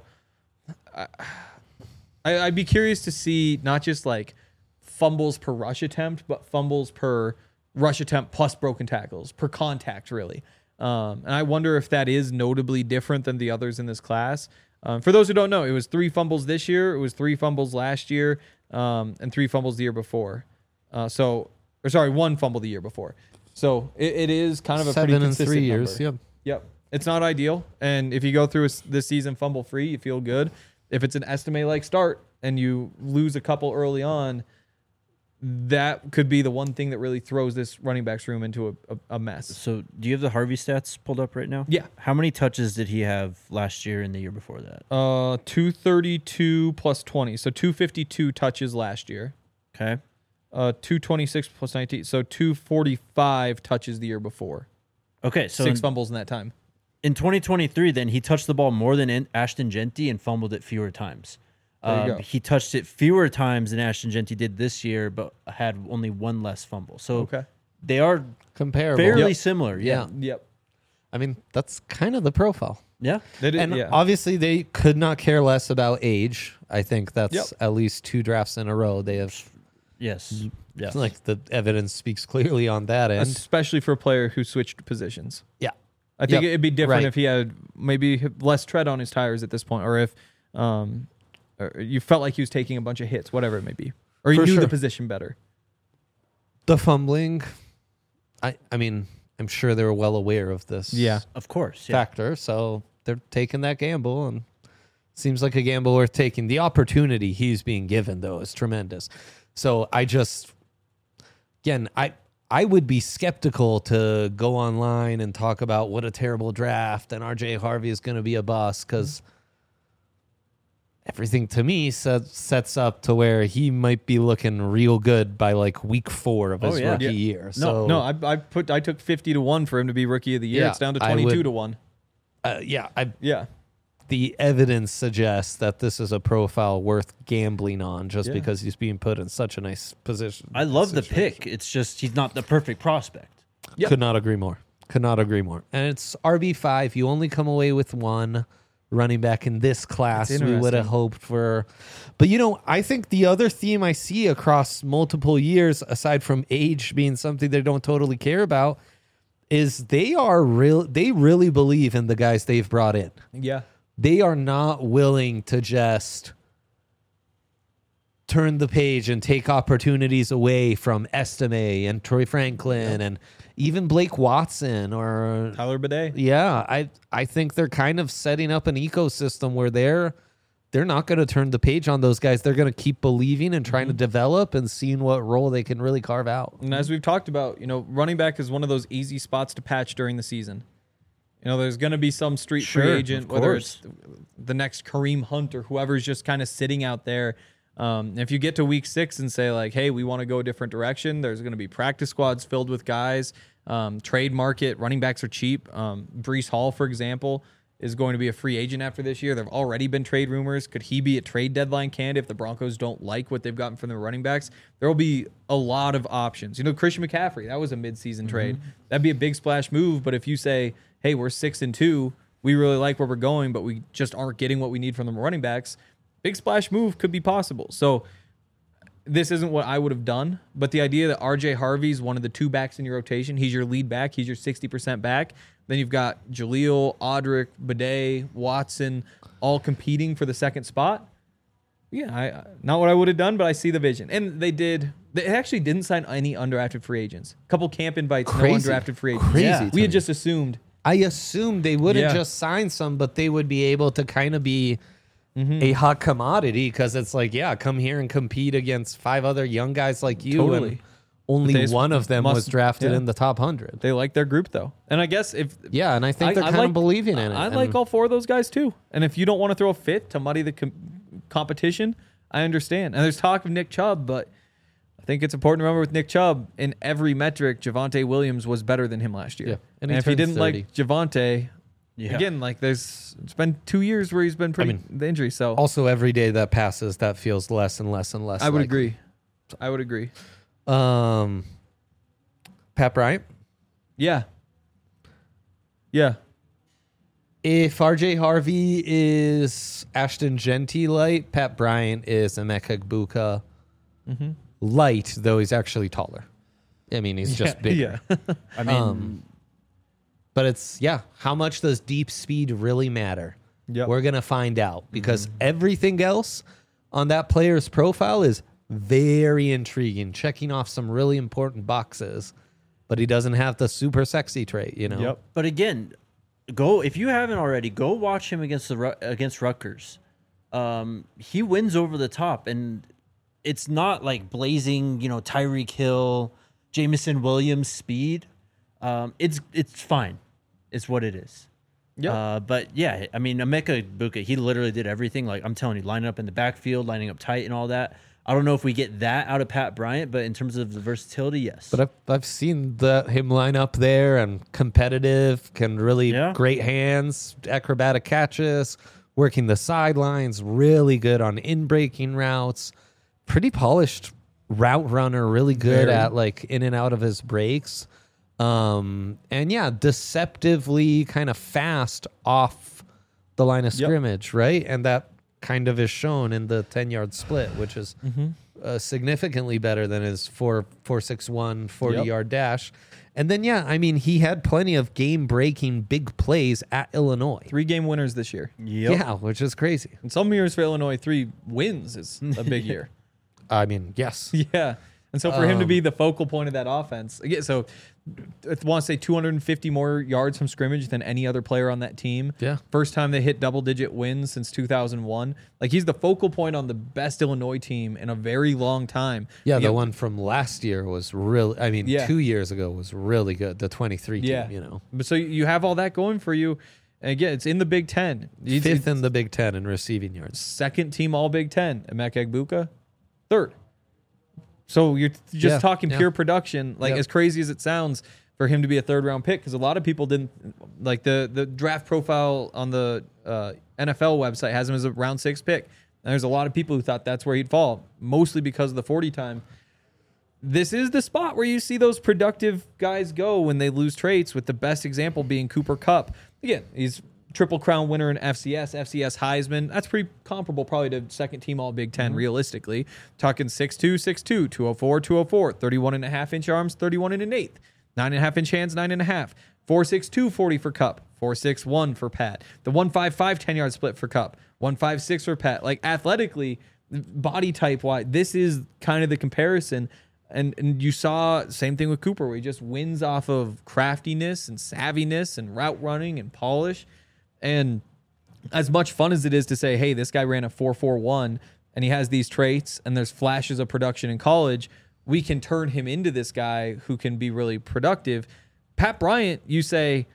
Speaker 2: I'd be curious to see not just like fumbles per rush attempt, but fumbles per rush attempt plus broken tackles, per contact, really. And I wonder if that is notably different than the others in this class. For those who don't know, it was 3 fumbles this year, it was 3 fumbles last year, and 3 fumbles the year before. 1 fumble the year before. So it is kind of a
Speaker 1: 7
Speaker 2: pretty
Speaker 1: in 3
Speaker 2: consistent
Speaker 1: years.
Speaker 2: number. Yep. It's not ideal. And if you go through this season fumble free, you feel good. If it's an estimate-like start and you lose a couple early on, that could be the one thing that really throws this running backs room into a mess.
Speaker 3: So do you have the Harvey stats pulled up right now?
Speaker 2: Yeah.
Speaker 3: How many touches did he have last year and the year before that?
Speaker 2: 232 plus 20. So 252 touches last year.
Speaker 3: Okay.
Speaker 2: 226 plus 19. So 245 touches the year before.
Speaker 3: Okay. So
Speaker 2: 6 fumbles in that time.
Speaker 3: in 2023, then he touched the ball more than Ashton Genty and fumbled it fewer times.
Speaker 2: There you go.
Speaker 3: He touched it fewer times than Ashton Genty did this year, but had only 1 less fumble. So they are
Speaker 1: Comparable.
Speaker 3: fairly similar. Yeah.
Speaker 2: Yep.
Speaker 1: I mean, that's kind of the profile.
Speaker 3: Yeah.
Speaker 1: And obviously, they could not care less about age. I think that's at least 2 drafts in a row. They have.
Speaker 3: Yes.
Speaker 1: It's like the evidence speaks clearly on that end.
Speaker 2: Especially for a player who switched positions.
Speaker 1: Yeah.
Speaker 2: I think it'd be different if he had maybe less tread on his tires at this point, or if or you felt like he was taking a bunch of hits, whatever it may be, or he knew the position better.
Speaker 1: The fumbling, I mean, I'm sure they were well aware of this.
Speaker 2: Yeah,
Speaker 3: of course.
Speaker 1: Factor, so they're taking that gamble, and seems like a gamble worth taking. The opportunity he's being given, though, is tremendous. So I would be skeptical to go online and talk about what a terrible draft and RJ Harvey is going to be a bust, because everything to me sets up to where he might be looking real good by like week 4 of his rookie year.
Speaker 2: I took 50 to 1 for him to be rookie of the year. It's down to 22 to 1.
Speaker 1: The evidence suggests that this is a profile worth gambling on just because he's being put in such a nice position.
Speaker 3: I love the pick. It's just he's not the perfect prospect.
Speaker 1: Could not agree more. And it's RB5. You only come away with 1 running back in this class. We would have hoped for. But, I think the other theme I see across multiple years, aside from age being something they don't totally care about, is they really believe in the guys they've brought in.
Speaker 2: Yeah.
Speaker 1: They are not willing to just turn the page and take opportunities away from Estime and Troy Franklin and even Blake Watson or
Speaker 2: Tyler Bidet.
Speaker 1: Yeah, I think they're kind of setting up an ecosystem where they're not going to turn the page on those guys. They're going to keep believing and trying to develop and seeing what role they can really carve out.
Speaker 2: And as we've talked about, running back is one of those easy spots to patch during the season. There's going to be some street free agent, whether it's the next Kareem Hunt or whoever's just kind of sitting out there. If you get to week 6 and say like, hey, we want to go a different direction, there's going to be practice squads filled with guys. Trade market, running backs are cheap. Breece Hall, for example, is going to be a free agent after this year. There have already been trade rumors. Could he be a trade deadline candidate if the Broncos don't like what they've gotten from the running backs? There will be a lot of options. Christian McCaffrey, that was a midseason trade. That'd be a big splash move. But if you say, hey, we're 6-2, we really like where we're going, but we just aren't getting what we need from the running backs, big splash move could be possible. So this isn't what I would have done, but the idea that RJ Harvey's one of the 2 backs in your rotation, he's your lead back, he's your 60% back. Then you've got Jaleel, Audric, Bidet, Watson, all competing for the second spot. Yeah, not what I would have done, but I see the vision. And they actually didn't sign any undrafted free agents. A couple camp invites, no undrafted free agents.
Speaker 1: Crazy.
Speaker 2: We had just assumed.
Speaker 1: I assumed they wouldn't just sign some, but they would be able to kind of be a hot commodity, because it's like, come here and compete against 5 other young guys like you.
Speaker 2: Totally.
Speaker 1: And only one of them was drafted in the top 100.
Speaker 2: They like their group, though. And I guess and
Speaker 1: I think they're kind of believing in it.
Speaker 2: I like all 4 of those guys, too. And if you don't want to throw a fit to muddy the competition, I understand. And there's talk of Nick Chubb, but I think it's important to remember with Nick Chubb, in every metric, Javonte Williams was better than him last year.
Speaker 1: Yeah.
Speaker 2: And
Speaker 1: he
Speaker 2: if you
Speaker 1: turned
Speaker 2: didn't
Speaker 1: 30.
Speaker 2: like Javonte, again, like it's been 2 years where he's been pretty the injury. So
Speaker 1: Also, every day that passes, that feels less and less and less.
Speaker 2: I would
Speaker 1: likely.
Speaker 2: agree. I would agree.
Speaker 1: Pat Bryant.
Speaker 2: Yeah. Yeah.
Speaker 1: If RJ Harvey is Ashton Genty light, Pat Bryant is Emeka Egbuka light, though he's actually taller. I mean, he's just bigger.
Speaker 2: Yeah.
Speaker 3: I mean,
Speaker 1: But it's, how much does deep speed really matter?
Speaker 2: Yep.
Speaker 1: We're going to find out because everything else on that player's profile is very intriguing, checking off some really important boxes, but he doesn't have the super sexy trait, you know?
Speaker 2: Yep.
Speaker 3: but again, go if you haven't already, go watch him against Rutgers. He wins over the top, and it's not like blazing, Tyreek Hill, Jamison Williams speed. It's fine. It's what it is.
Speaker 2: Yep.
Speaker 3: But yeah, I mean, Emeka Egbuka, he literally did everything. Like I'm telling you, lining up in the backfield, lining up tight, and all that. I don't know if we get that out of Pat Bryant, but in terms of the versatility, yes.
Speaker 1: But I've seen him line up there and competitive, can really great hands, acrobatic catches, working the sidelines, really good on in-breaking routes, pretty polished route runner, really good at like in and out of his breaks. And deceptively kind of fast off the line of scrimmage, right? And that kind of is shown in the 10-yard split, which is significantly better than his 4.61 40-yard dash. And then, he had plenty of game-breaking big plays at Illinois.
Speaker 2: 3 game winners this year.
Speaker 3: Yep.
Speaker 1: Yeah, which is crazy.
Speaker 2: And some years for Illinois, 3 wins is a big year.
Speaker 1: I mean, yes.
Speaker 2: Yeah. And so for him to be the focal point of that offense, again, so I want to say 250 more yards from scrimmage than any other player on that team.
Speaker 1: Yeah.
Speaker 2: First time they hit double-digit wins since 2001. Like, he's the focal point on the best Illinois team in a very long time.
Speaker 1: Yeah, the one from last year was really, 2 years ago was really good. The 23 team,
Speaker 2: But so you have all that going for you. And again, it's in the Big Ten.
Speaker 1: Fifth in the Big Ten in receiving yards.
Speaker 2: Second team all Big Ten. Emeka Egbuka, third. So you're just talking pure production, as crazy as it sounds for him to be a third-round pick, because a lot of people didn't like the draft profile on the NFL website has him as a round 6 pick. And there's a lot of people who thought that's where he'd fall, mostly because of the 40 time. This is the spot where you see those productive guys go when they lose traits, with the best example being Cooper Kupp. Again, he's Triple Crown winner in FCS Heisman. That's pretty comparable probably to second team all Big Ten realistically. Talking 6'2", 6'2", 204, 204, 31.5-inch arms, 31 and an eighth, 9.5-inch hands, 9.5, 4.62 40 for Kupp, 4.61 for Pat. The 1.55 10-yard split for Kupp, 1.56 for Pat. Like athletically, body type wise, this is kind of the comparison. And you saw same thing with Cooper, where he just wins off of craftiness and savviness and route running and polish. And as much fun as it is to say, hey, this guy ran a 4.41 and he has these traits and there's flashes of production in college, we can turn him into this guy who can be really productive. Pat Bryant, you say,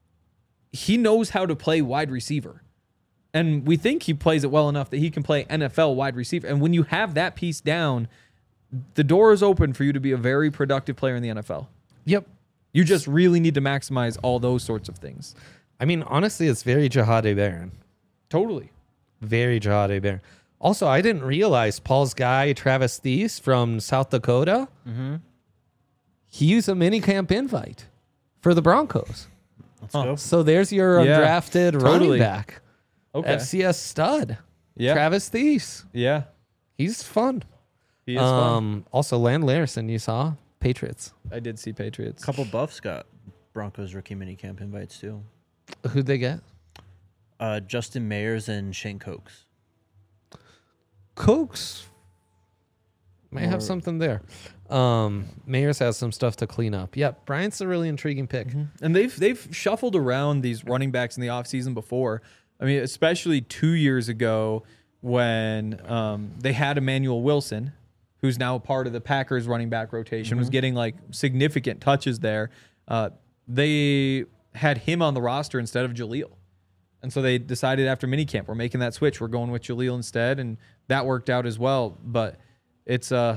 Speaker 2: he knows how to play wide receiver. And we think he plays it well enough that he can play NFL wide receiver. And when you have that piece down, the door is open for you to be a very productive player in the NFL.
Speaker 1: Yep.
Speaker 2: You just really need to maximize all those sorts of things.
Speaker 1: I mean, honestly, it's very Jahade Barron.
Speaker 2: Totally.
Speaker 1: Very Jahade Barron. Also, I didn't realize Paul's guy, Travis Thies from South Dakota, he used a minicamp invite for the Broncos.
Speaker 3: Let's go.
Speaker 1: So there's your undrafted running back.
Speaker 2: Okay.
Speaker 1: FCS stud.
Speaker 2: Yeah.
Speaker 1: Travis Thies.
Speaker 2: Yeah.
Speaker 1: He's fun.
Speaker 2: He is fun.
Speaker 1: Also, Land Larison, you saw? Patriots.
Speaker 2: I did see Patriots.
Speaker 3: A couple Buffs got Broncos rookie minicamp invites too.
Speaker 1: Who'd they get?
Speaker 3: Justin Mayers and Shane Cokes.
Speaker 1: Cokes may have something there. Mayers has some stuff to clean up. Yep, Bryant's a really intriguing pick.
Speaker 2: And they've shuffled around these running backs in the offseason before. I mean, especially 2 years ago when they had Emmanuel Wilson, who's now a part of the Packers running back rotation, was getting like significant touches there. They had him on the roster instead of Jaleel. And so they decided after minicamp, we're making that switch. We're going with Jaleel instead, and that worked out as well. But it's we'll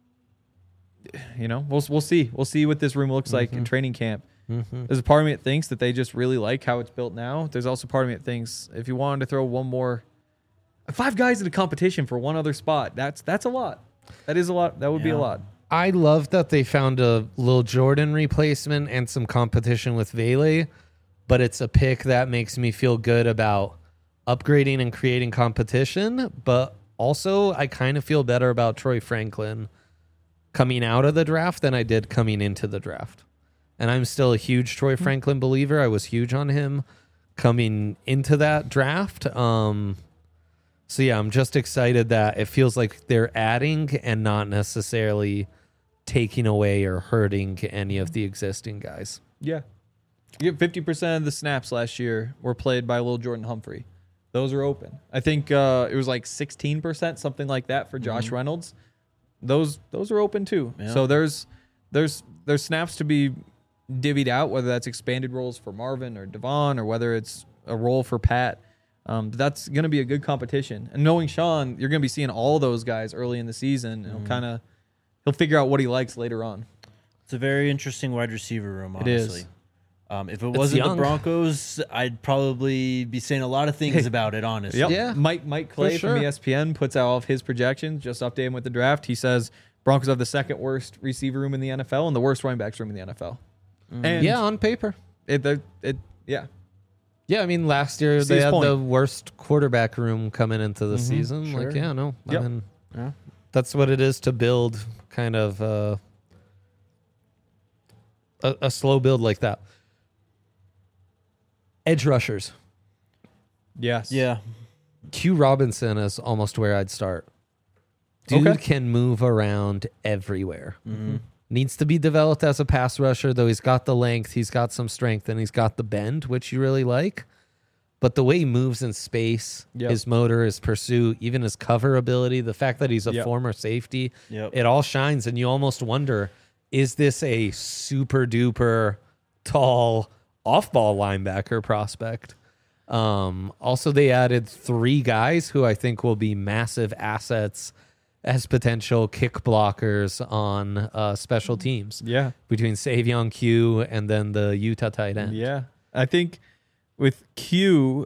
Speaker 2: see. We'll see what this room looks like in training camp. There's a part of me that thinks that they just really like how it's built now. There's also part of me that thinks if you wanted to throw 5 guys in a competition for one other spot, that's a lot. That is a lot. That would be a lot.
Speaker 1: I love that they found a Lil Jordan replacement and some competition with Vele, but it's a pick that makes me feel good about upgrading and creating competition. But also, I kind of feel better about Troy Franklin coming out of the draft than I did coming into the draft. And I'm still a huge Troy Franklin believer. I was huge on him coming into that draft. So yeah, I'm just excited that it feels like they're adding and not necessarily taking away or hurting any of the existing guys.
Speaker 2: Yeah. You get 50% of the snaps last year were played by Lil Jordan Humphrey. Those are open. I think it was like 16%, something like that for Josh Reynolds. Those are open too. Yeah. So there's snaps to be divvied out, whether that's expanded roles for Marvin or Devon or whether it's a role for Pat. That's going to be a good competition. And knowing Sean, you're going to be seeing all those guys early in the season. And he'll figure out what he likes later on.
Speaker 3: It's a very interesting wide receiver room, honestly.
Speaker 2: It is.
Speaker 3: If it wasn't the Broncos, I'd probably be saying a lot of things about it, honestly.
Speaker 2: Yep. Yeah. Mike Clay from ESPN puts out all of his projections. Just update him with the draft. He says Broncos have the second worst receiver room in the NFL and the worst running backs room in the NFL. And
Speaker 1: on paper.
Speaker 2: Yeah,
Speaker 1: I mean, last year they had the worst quarterback room coming into the season.
Speaker 2: Sure.
Speaker 1: I mean, that's what it is to build kind of a slow build like that. Edge rushers.
Speaker 2: Yes.
Speaker 3: Yeah.
Speaker 1: Q Robinson is almost where I'd start. Dude can move around everywhere. Needs to be developed as a pass rusher, though he's got the length, he's got some strength, and he's got the bend, which you really like. But the way he moves in space, his motor, his pursuit, even his cover ability, the fact that he's a former safety, it all shines. And you almost wonder, is this a super duper tall off-ball linebacker prospect? Also, they added 3 guys who I think will be massive assets as potential kick blockers on special teams. Yeah. Between Savion Q and then the Utah tight end.
Speaker 2: Yeah. I think with Q,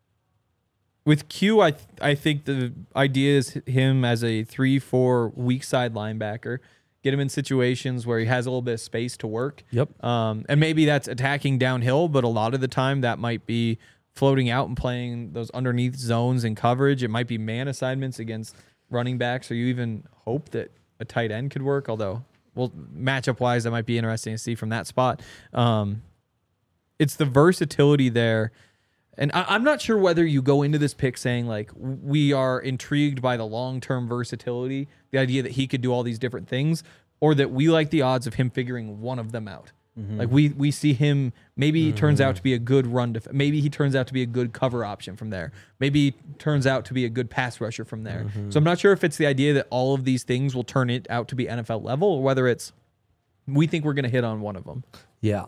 Speaker 2: I think the idea is him as a 3-4 weak side linebacker. Get him in situations where he has a little bit of space to work.
Speaker 1: Yep.
Speaker 2: And maybe that's attacking downhill, but a lot of the time that might be floating out and playing those underneath zones and coverage. It might be man assignments against running backs, or you even hope that a tight end could work, although, well, matchup-wise, that might be interesting to see from that spot. It's the versatility there. And I'm not sure whether you go into this pick saying, like, we are intrigued by the long-term versatility, the idea that he could do all these different things, or that we like the odds of him figuring one of them out. Like, we see him, maybe he turns out to be a good maybe he turns out to be a good cover option from there. Maybe he turns out to be a good pass rusher from there. So I'm not sure if it's the idea that all of these things will turn it out to be NFL level, or whether it's we think we're going to hit on one of them.
Speaker 1: Yeah.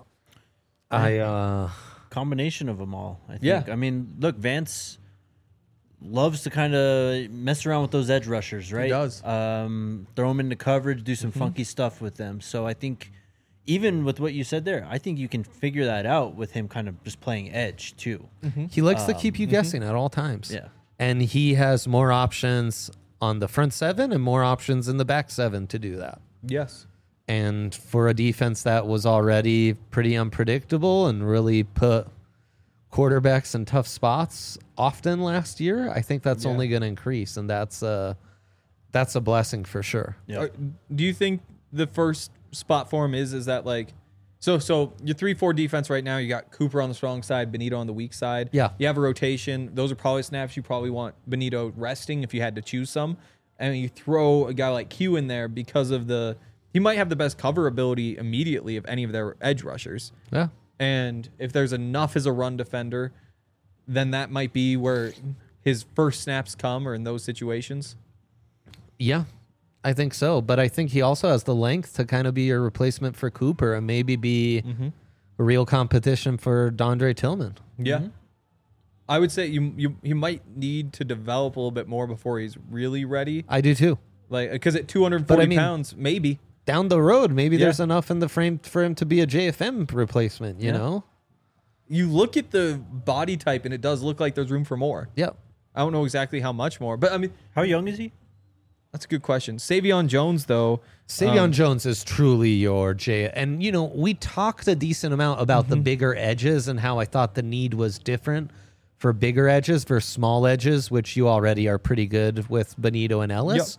Speaker 3: Combination of them all, I think. Yeah. I mean, look, Vance loves to kind of mess around with those edge rushers, right?
Speaker 2: He does.
Speaker 3: Throw them into coverage, do some funky stuff with them. So I think even with what you said there, I think you can figure that out with him kind of just playing edge too.
Speaker 1: He likes to keep you guessing at all times.
Speaker 3: Yeah.
Speaker 1: And he has more options on the front 7 and more options in the back 7 to do that.
Speaker 2: Yes.
Speaker 1: And for a defense that was already pretty unpredictable and really put quarterbacks in tough spots often last year, I think that's only going to increase, and that's a blessing for sure.
Speaker 3: Yeah.
Speaker 2: Do you think the first spot for him is that, like, so your 3-4 defense right now, you got Cooper on the strong side, Benito on the weak side.
Speaker 1: Yeah. You
Speaker 2: have a rotation. Those are probably snaps you probably want Benito resting if you had to choose some. And you throw a guy like Q in there because of he might have the best cover ability immediately of any of their edge rushers.
Speaker 1: Yeah.
Speaker 2: And if there's enough as a run defender, then that might be where his first snaps come, or in those situations.
Speaker 1: Yeah, I think so. But I think he also has the length to kind of be your replacement for Cooper and maybe be a real competition for Dondre Tillman.
Speaker 2: Yeah. I would say you might need to develop a little bit more before he's really ready.
Speaker 1: I do too.
Speaker 2: Like, because at 240
Speaker 1: But I mean-
Speaker 2: pounds, maybe.
Speaker 1: Down the road, maybe
Speaker 2: Yeah.
Speaker 1: there's enough in the frame for him to be a JFM replacement, you
Speaker 2: Yeah.
Speaker 1: know?
Speaker 2: You look at the body type, and it does look like there's room for more.
Speaker 1: Yep.
Speaker 2: I don't know exactly how much more, but I mean,
Speaker 3: How young is he?
Speaker 2: that's a good question. Savion Jones, though,
Speaker 1: Savion Jones is truly your J. And, you know, we talked a decent amount about the bigger edges and how I thought the need was different for bigger edges versus small edges, which you already are pretty good with Benito and Ellis.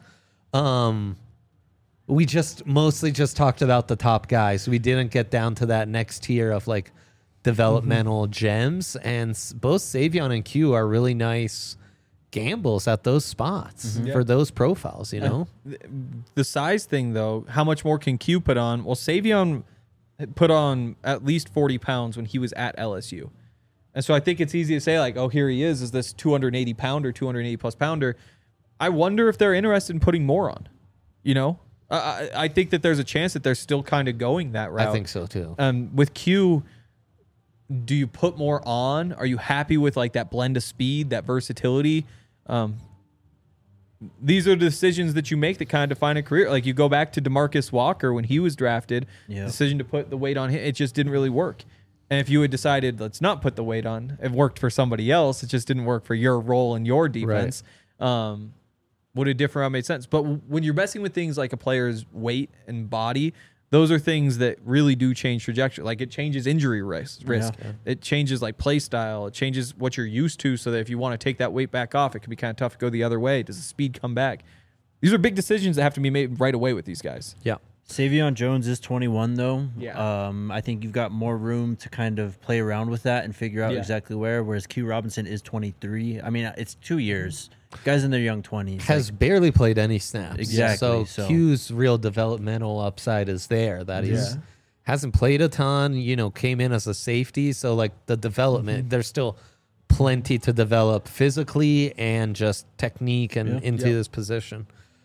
Speaker 1: We just mostly just talked about the top guys. We didn't get down to that next tier of like developmental gems. And both Savion and Q are really nice gambles at those spots for those profiles, you know?
Speaker 2: the size thing, though, how much more can Q put on? Well, Savion put on at least 40 pounds when he was at LSU. And so I think it's easy to say, like, oh, here he is this 280 pounder, 280 plus pounder. I wonder if they're interested in putting more on, you know? I think that there's a chance that they're still kind of going that route.
Speaker 1: I think so too.
Speaker 2: With Q, do you put more on? Are you happy with like that blend of speed, that versatility? These are the decisions that you make that kind of define a career. Like you go back to DeMarcus Walker when he was drafted, the decision to put the weight on him, it just didn't really work. And if you had decided, let's not put the weight on, it worked for somebody else. It just didn't work for your role in your defense. Would a different route made sense? But when you're messing with things like a player's weight and body, those are things that really do change trajectory. Like it changes injury risk. It changes like play style. It changes what you're used to, so that if you want to take that weight back off, it can be kind of tough to go the other way. Does the speed come back? These are big decisions that have to be made right away with these guys.
Speaker 1: Yeah.
Speaker 3: Savion Jones is 21, though.
Speaker 2: Yeah.
Speaker 3: I think you've got more room to kind of play around with that and figure out exactly where, whereas Q Robinson is 23. I mean, it's 2 years. Guys in their young 20s.
Speaker 1: Has barely played any snaps.
Speaker 3: Exactly,
Speaker 1: So Q's real developmental upside is there. That he's hasn't played a ton, you know, came in as a safety. So like the development, there's still plenty to develop physically and just technique and into this position.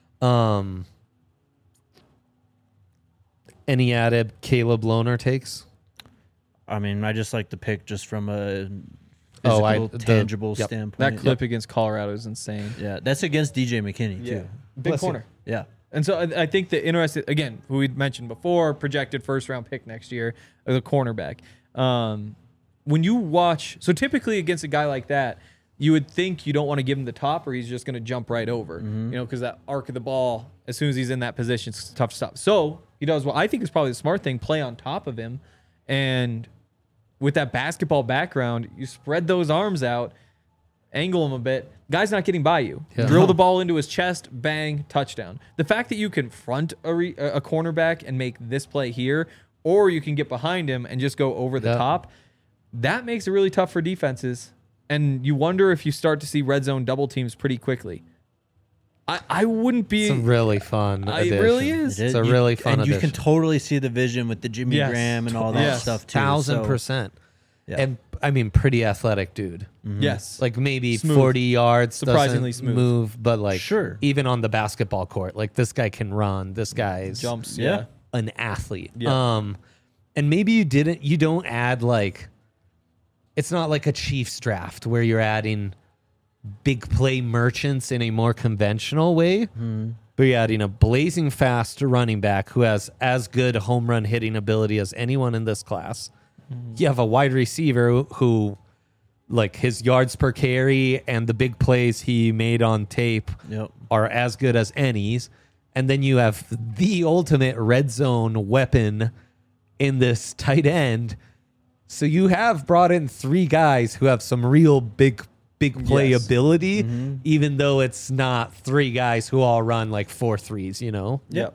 Speaker 1: Any added Caleb Lohner takes?
Speaker 3: I mean, I just like the pick just from a physical, tangible standpoint.
Speaker 2: That clip against Colorado is insane.
Speaker 3: Yeah, that's against DJ McKinney, too.
Speaker 2: Big corner.
Speaker 3: Yeah.
Speaker 2: And so I think the interesting, again, who we'd mentioned before, projected first-round pick next year, the cornerback. When you watch, so typically against a guy like that, you would think you don't want to give him the top or he's just going to jump right over, you know, because that arc of the ball, as soon as he's in that position, it's tough to stop. So he does what I think is probably the smart thing, play on top of him. And with that basketball background, you spread those arms out, angle him a bit. Guy's not getting by you.
Speaker 1: Yeah.
Speaker 2: Drill the ball into his chest, bang, touchdown. The fact that you can front a cornerback and make this play here, or you can get behind him and just go over the top, that makes it really tough for defenses. And you wonder if you start to see red zone double teams pretty quickly. I wouldn't be.
Speaker 1: It's a really fun addition.
Speaker 2: It really is.
Speaker 1: It's a really fun
Speaker 3: and
Speaker 1: addition.
Speaker 3: you can totally see the vision with the Jimmy Graham and all that stuff, too.
Speaker 1: 1,000%.
Speaker 3: Yeah.
Speaker 1: And I mean, pretty athletic dude.
Speaker 2: Yes.
Speaker 1: Like maybe
Speaker 2: Smooth.
Speaker 1: 40 yards,
Speaker 2: Surprisingly
Speaker 1: doesn't
Speaker 2: smooth.
Speaker 1: move, but like
Speaker 3: Sure.
Speaker 1: even on the basketball court, like this guy can run. This guy's
Speaker 2: Jumps.
Speaker 3: Yeah.
Speaker 1: an athlete.
Speaker 2: Yeah.
Speaker 1: And maybe you don't add like, it's not like a Chiefs draft where you're adding big play merchants in a more conventional way. But you're adding a blazing fast running back who has as good home run hitting ability as anyone in this class. You have a wide receiver who, like, his yards per carry and the big plays he made on tape are as good as any's. And then you have the ultimate red zone weapon in this tight end. So you have brought in 3 guys who have some real big play ability, even though it's not 3 guys who all run like 4 threes, you know?
Speaker 2: Yep.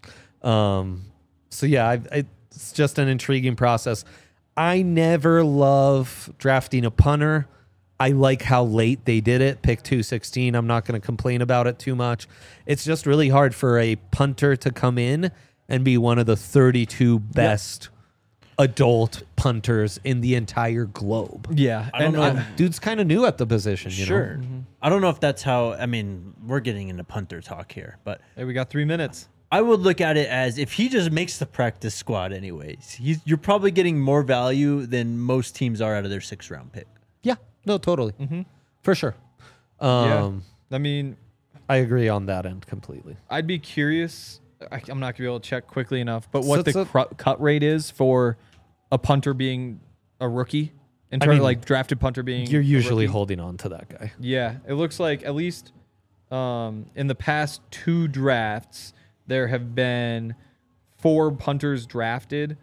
Speaker 1: So yeah, it's just an intriguing process. I never love drafting a punter. I like how late they did it, pick 216. I'm not going to complain about it too much. It's just really hard for a punter to come in and be one of the 32 best adult punters in the entire globe.
Speaker 2: Yeah.
Speaker 3: I don't know.
Speaker 1: Dude's kind of new at the position, you know?
Speaker 3: I don't know if that's how, I mean, we're getting into punter talk here, but
Speaker 2: Hey, we got 3 minutes.
Speaker 3: I would look at it as if he just makes the practice squad anyways, you're probably getting more value than most teams are out of their 6th round pick.
Speaker 1: Yeah. No, totally. For sure.
Speaker 2: Yeah. I mean,
Speaker 1: I agree on that end completely.
Speaker 2: I'd be curious. I'm not going to be able to check quickly enough, but
Speaker 1: So
Speaker 2: what
Speaker 1: it's
Speaker 2: the cut rate is for a punter being a rookie in terms
Speaker 1: mean,
Speaker 2: of like drafted punter being
Speaker 1: You're
Speaker 2: a
Speaker 1: usually
Speaker 2: rookie.
Speaker 1: holding on to that guy.
Speaker 2: Yeah, it looks like at least in the past 2 drafts, there have been 4 punters drafted,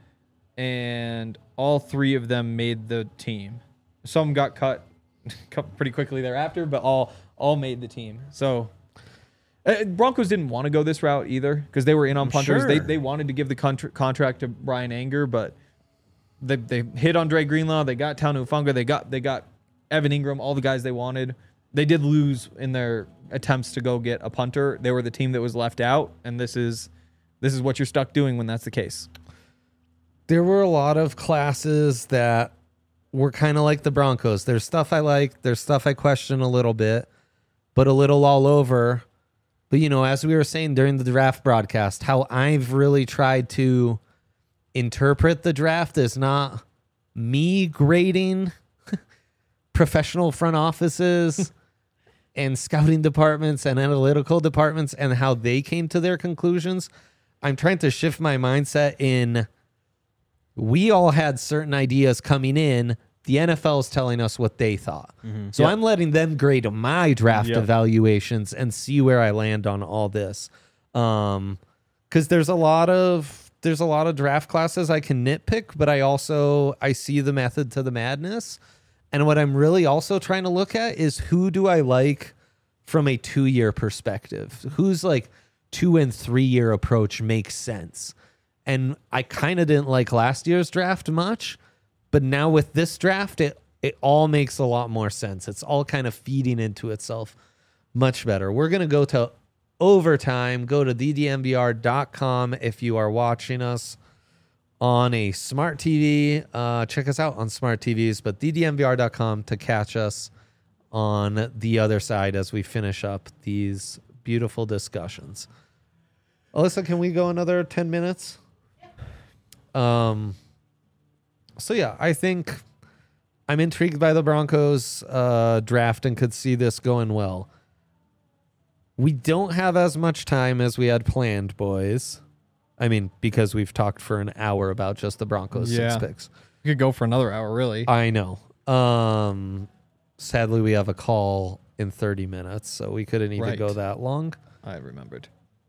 Speaker 2: and all 3 of them made the team. Some got cut pretty quickly thereafter, but all made the team. So Broncos didn't want to go this route either because they were in on punters.
Speaker 3: Sure.
Speaker 2: They wanted to give the contract to Brian Anger, but they hit on Dre Greenlaw. They got Tanu Funga. They got Evan Ingram. All the guys they wanted. They did lose in their attempts to go get a punter. They were the team that was left out, and this is what you're stuck doing when that's the case.
Speaker 1: There were a lot of classes that were kind of like the Broncos. There's stuff I like. There's stuff I question a little bit, but a little all over. But, you know, as we were saying during the draft broadcast, how I've really tried to interpret the draft is not me grading professional front offices and scouting departments and analytical departments and how they came to their conclusions. I'm trying to shift my mindset in we all had certain ideas coming in. The NFL is telling us what they thought. So I'm letting them grade my draft evaluations and see where I land on all this. Because there's a lot of draft classes I can nitpick, but I see the method to the madness. And what I'm really also trying to look at is who do I like from a 2-year perspective? Who's like 2 and 3 year approach makes sense. And I kind of didn't like last year's draft much. But now with this draft, it all makes a lot more sense. It's all kind of feeding into itself much better. We're going to go to overtime. Go to ddnvr.com if you are watching us on a smart TV. Check us out on smart TVs, but ddnvr.com to catch us on the other side as we finish up these beautiful discussions. Alyssa, can we go another 10 minutes? So yeah, I think I'm intrigued by the Broncos draft and could see this going well. We don't have as much time as we had planned, boys. I mean, because we've talked for an hour about just the Broncos 6 picks.
Speaker 2: You could go for another hour, really.
Speaker 1: I know. Sadly, we have a call in 30 minutes, so we couldn't even go that long.
Speaker 2: I remembered.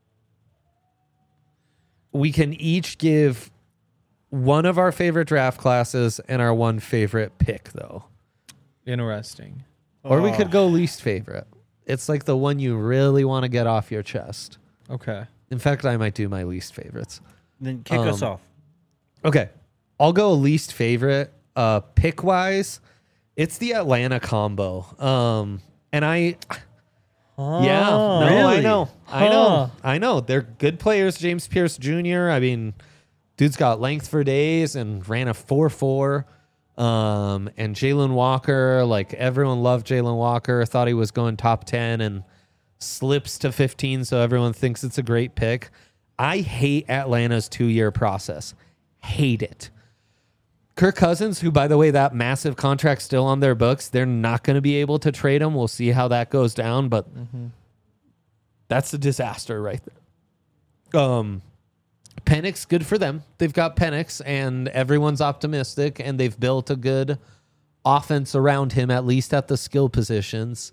Speaker 1: We can each give one of our favorite draft classes and our one favorite pick, though.
Speaker 2: Interesting.
Speaker 1: Or we could go least favorite. It's like the one you really want to get off your chest.
Speaker 2: Okay.
Speaker 1: In fact, I might do my least favorites.
Speaker 3: Then kick us off.
Speaker 1: Okay. I'll go least favorite. Pick-wise, it's the Atlanta combo. And I... Yeah. No,
Speaker 3: really?
Speaker 1: I know. They're good players. James Pierce Jr., I mean... Dude's got length for days and ran a 4.4. And Jalen Walker, like everyone loved Jalen Walker, thought he was going top 10 and slips to 15. So everyone thinks it's a great pick. I hate Atlanta's 2-year process. Hate it. Kirk Cousins, who, by the way, that massive contract still on their books, they're not going to be able to trade him. We'll see how that goes down, but that's a disaster right there. Penix, good for them. They've got Penix, and everyone's optimistic, and they've built a good offense around him, at least at the skill positions.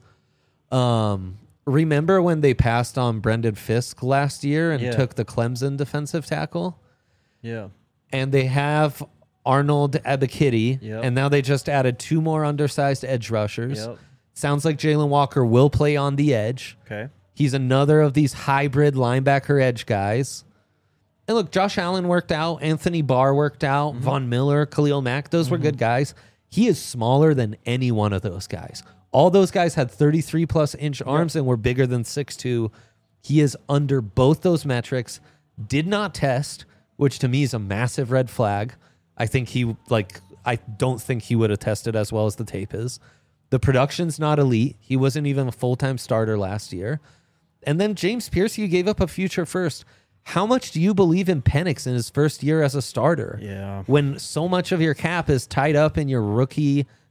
Speaker 1: Remember when they passed on Brendan Fisk last year and took the Clemson defensive tackle?
Speaker 3: Yeah.
Speaker 1: And they have Arnold Ebiketie, and now they just added 2 more undersized edge rushers.
Speaker 3: Yep.
Speaker 1: Sounds like Jalen Walker will play on the edge.
Speaker 3: Okay.
Speaker 1: He's another of these hybrid linebacker edge guys. And look, Josh Allen worked out. Anthony Barr worked out. Von Miller, Khalil Mack, those were good guys. He is smaller than any one of those guys. All those guys had 33-plus inch arms and were bigger than 6'2". He is under both those metrics. Did not test, which to me is a massive red flag. I don't think he would have tested as well as the tape is. The production's not elite. He wasn't even a full-time starter last year. And then James Pierce, you gave up a future first. How much do you believe in Penix in his first year as a starter?
Speaker 3: Yeah.
Speaker 1: When so much of your cap is tied up in your rookie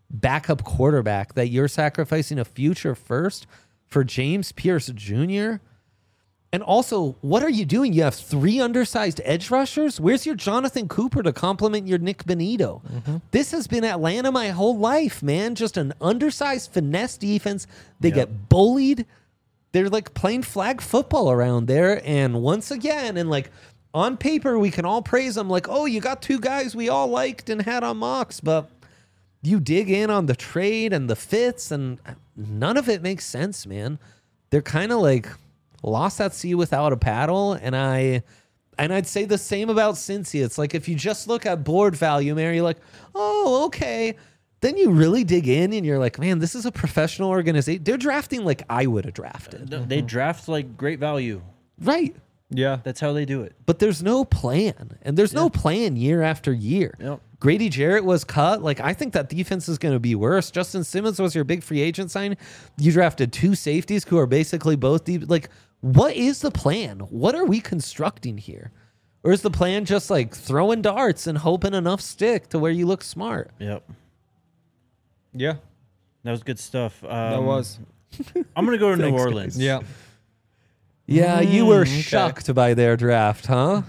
Speaker 1: backup quarterback that you're sacrificing a future first for James Pierce Jr.? And also, what are you doing? You have 3 undersized edge rushers? Where's your Jonathan Cooper to complement your Nick Benito? This has been Atlanta my whole life, man. Just an undersized finesse defense. They get bullied. They're like playing flag football around there. And once again, and like on paper, we can all praise them like, oh, you got 2 guys we all liked and had on mocks. But you dig in on the trade and the fits, and none of it makes sense, man. They're kind of like lost at sea without a paddle, and I'd say the same about Cincy. It's like if you just look at board value, Mary, you're like, oh, okay. Then you really dig in, and you're like, man, this is a professional organization. They're drafting like I would have drafted.
Speaker 3: They draft like great value.
Speaker 1: Right.
Speaker 2: Yeah.
Speaker 3: That's how they do it.
Speaker 1: But there's no plan, and there's no plan year after year.
Speaker 3: Yep.
Speaker 1: Grady Jarrett was cut. Like, I think that defense is going to be worse. Justin Simmons was your big free agent sign. You drafted 2 safeties who are basically both deep. Like, what is the plan? What are we constructing here? Or is the plan just like throwing darts and hoping enough stick to where you look smart?
Speaker 3: Yep.
Speaker 2: Yeah.
Speaker 3: That was good stuff.
Speaker 2: That was.
Speaker 3: I'm going to go to New
Speaker 1: Thanks,
Speaker 3: Orleans.
Speaker 1: guys.
Speaker 2: Yeah.
Speaker 1: Yeah, you were shocked by their draft, huh?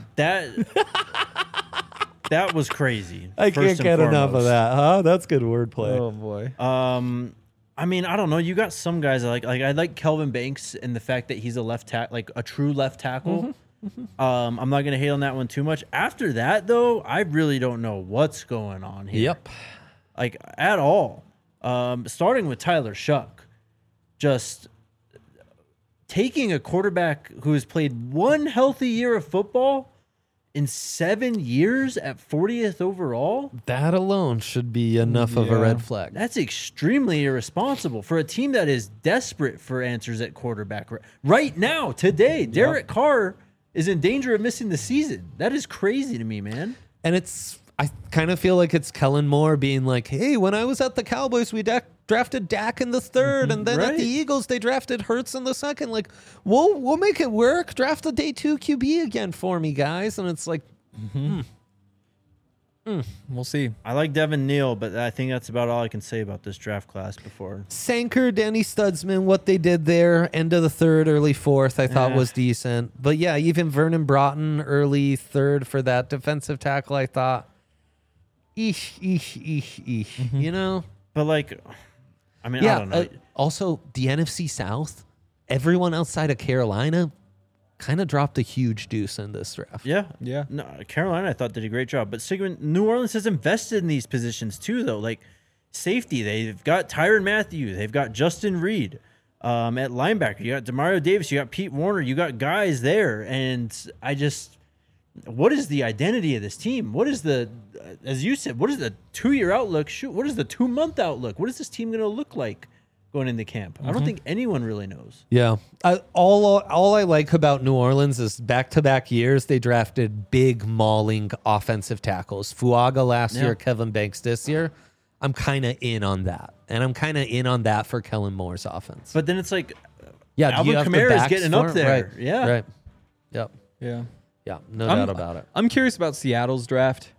Speaker 3: That was crazy.
Speaker 1: I
Speaker 3: first
Speaker 1: can't
Speaker 3: and
Speaker 1: get enough of
Speaker 3: foremost.
Speaker 1: that, huh? That's good wordplay.
Speaker 2: Oh boy.
Speaker 3: I mean, I don't know. You got some guys I like Kelvin Banks and the fact that he's a left tackle, like a true left tackle. I'm not gonna hate on that one too much. After that, though, I really don't know what's going on here.
Speaker 1: Yep.
Speaker 3: Like at all. Starting with Tyler Shuck, just taking a quarterback who has played 1 healthy year of football in 7 years at 40th overall.
Speaker 1: That alone should be enough of a red flag.
Speaker 3: That's extremely irresponsible for a team that is desperate for answers at quarterback right now, today. Derek Carr is in danger of missing the season. That is crazy to me, man.
Speaker 1: And I kind of feel like it's Kellen Moore being like, hey, when I was at the Cowboys, we drafted Dak in the 3rd, and then at the Eagles, they drafted Hurts in the 2nd. Like, we'll make it work. Draft the day 2 QB again for me, guys. And it's like,
Speaker 2: We'll see.
Speaker 3: I like Devin Neal, but I think that's about all I can say about this draft class before.
Speaker 1: Sanker, Danny Studsman, what they did there, end of the 3rd, early 4th, I thought was decent. But yeah, even Vernon Broughton, early 3rd for that defensive tackle, I thought, you know?
Speaker 3: But like, I mean,
Speaker 1: Yeah.
Speaker 3: I don't know.
Speaker 1: Also, the NFC South, everyone outside of Carolina kind of dropped a huge deuce in this draft.
Speaker 3: Yeah.
Speaker 2: Yeah.
Speaker 3: No, Carolina, I thought, did a great job. But New Orleans has invested in these positions too, though. Like safety, they've got Tyrann Mathieu, they've got Justin Reed. At linebacker, you got Demario Davis, you got Pete Warner, you got guys there. And what is the identity of this team? What is as you said, what is the 2-year outlook? Shoot, what is the 2-month outlook? What is this team going to look like going into camp? I don't think anyone really knows.
Speaker 1: Yeah. All I like about New Orleans is back-to-back years, they drafted big mauling offensive tackles. Fuaga last year, Kevin Banks this year. I'm kind of in on that. And I'm kind of in on that for Kellen Moore's offense.
Speaker 3: But then it's like,
Speaker 1: Yeah,
Speaker 3: Alvin Kamara is getting up there.
Speaker 1: Right.
Speaker 3: Yeah.
Speaker 1: Right. Yep.
Speaker 2: Yeah.
Speaker 1: Yeah. No doubt about it.
Speaker 2: I'm curious about Seattle's draft.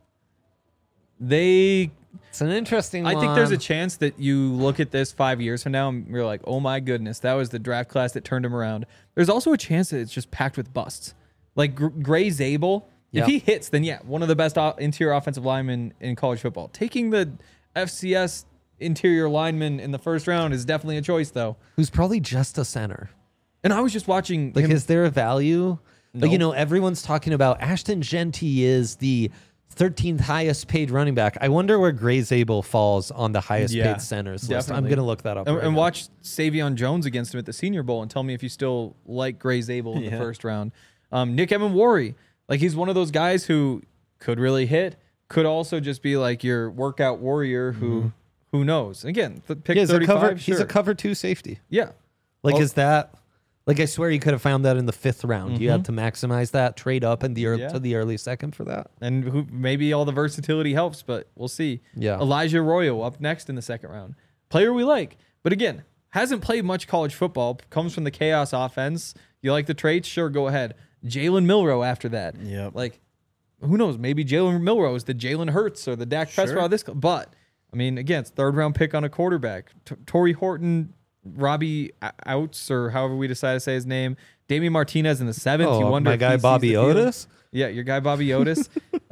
Speaker 1: It's an interesting one.
Speaker 2: I think there's a chance that you look at this 5 years from now and you're like, oh my goodness, that was the draft class that turned him around. There's also a chance that it's just packed with busts. Like Gray Zabel, if he hits, then one of the best interior offensive linemen in college football. Taking the FCS interior lineman in the 1st round is definitely a choice, though.
Speaker 1: Who's probably just a center.
Speaker 2: And I was just watching.
Speaker 1: Like,
Speaker 2: him.
Speaker 1: is there a value?
Speaker 2: No.
Speaker 1: Like, everyone's talking about Ashton Genty is the 13th highest paid running back. I wonder where Gray Zabel falls on the highest paid centers list. I'm
Speaker 2: definitely.
Speaker 1: going to look that up.
Speaker 2: And watch Savion Jones against him at the Senior Bowl and tell me if you still like Gray Zabel in the 1st round. Nick Evan-Warry, like he's one of those guys who could really hit, could also just be like your workout warrior who knows. Again, pick 35.
Speaker 1: He's a cover 2 safety.
Speaker 2: Yeah.
Speaker 1: Like, is that... Like, I swear you could have found that in the 5th round. You had to maximize that, trade up in the to the early 2nd for that.
Speaker 2: And maybe all the versatility helps, but we'll see.
Speaker 1: Yeah.
Speaker 2: Elijah Arroyo up next in the 2nd round. Player we like. But again, hasn't played much college football, comes from the chaos offense. You like the traits? Sure, go ahead. Jalen Milroe after that.
Speaker 3: Yep.
Speaker 2: Like, who knows? Maybe Jalen Milroe is the Jalen Hurts or the Dak Prescott of this. But I mean, again, it's third round pick on a quarterback. Torrey Horton, Robbie Outs, or however we decide to say his name. Damian Martinez in the 7th. You wonder
Speaker 1: my
Speaker 2: if
Speaker 1: guy
Speaker 2: he sees
Speaker 1: Bobby
Speaker 2: the field.
Speaker 1: Otis.
Speaker 2: Yeah, your guy Bobby Otis.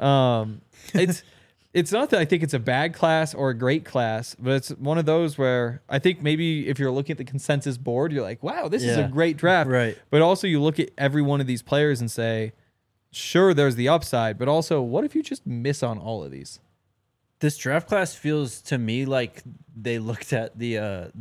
Speaker 2: It's not that I think it's a bad class or a great class, but it's one of those where I think maybe if you're looking at the consensus board, you're like, wow, this is a
Speaker 3: Yeah.
Speaker 2: great draft.
Speaker 3: Right.
Speaker 2: But also you look at every one of these players and say, sure, there's the upside, but also what if you just miss on all of these?
Speaker 3: This draft class feels to me like they looked at the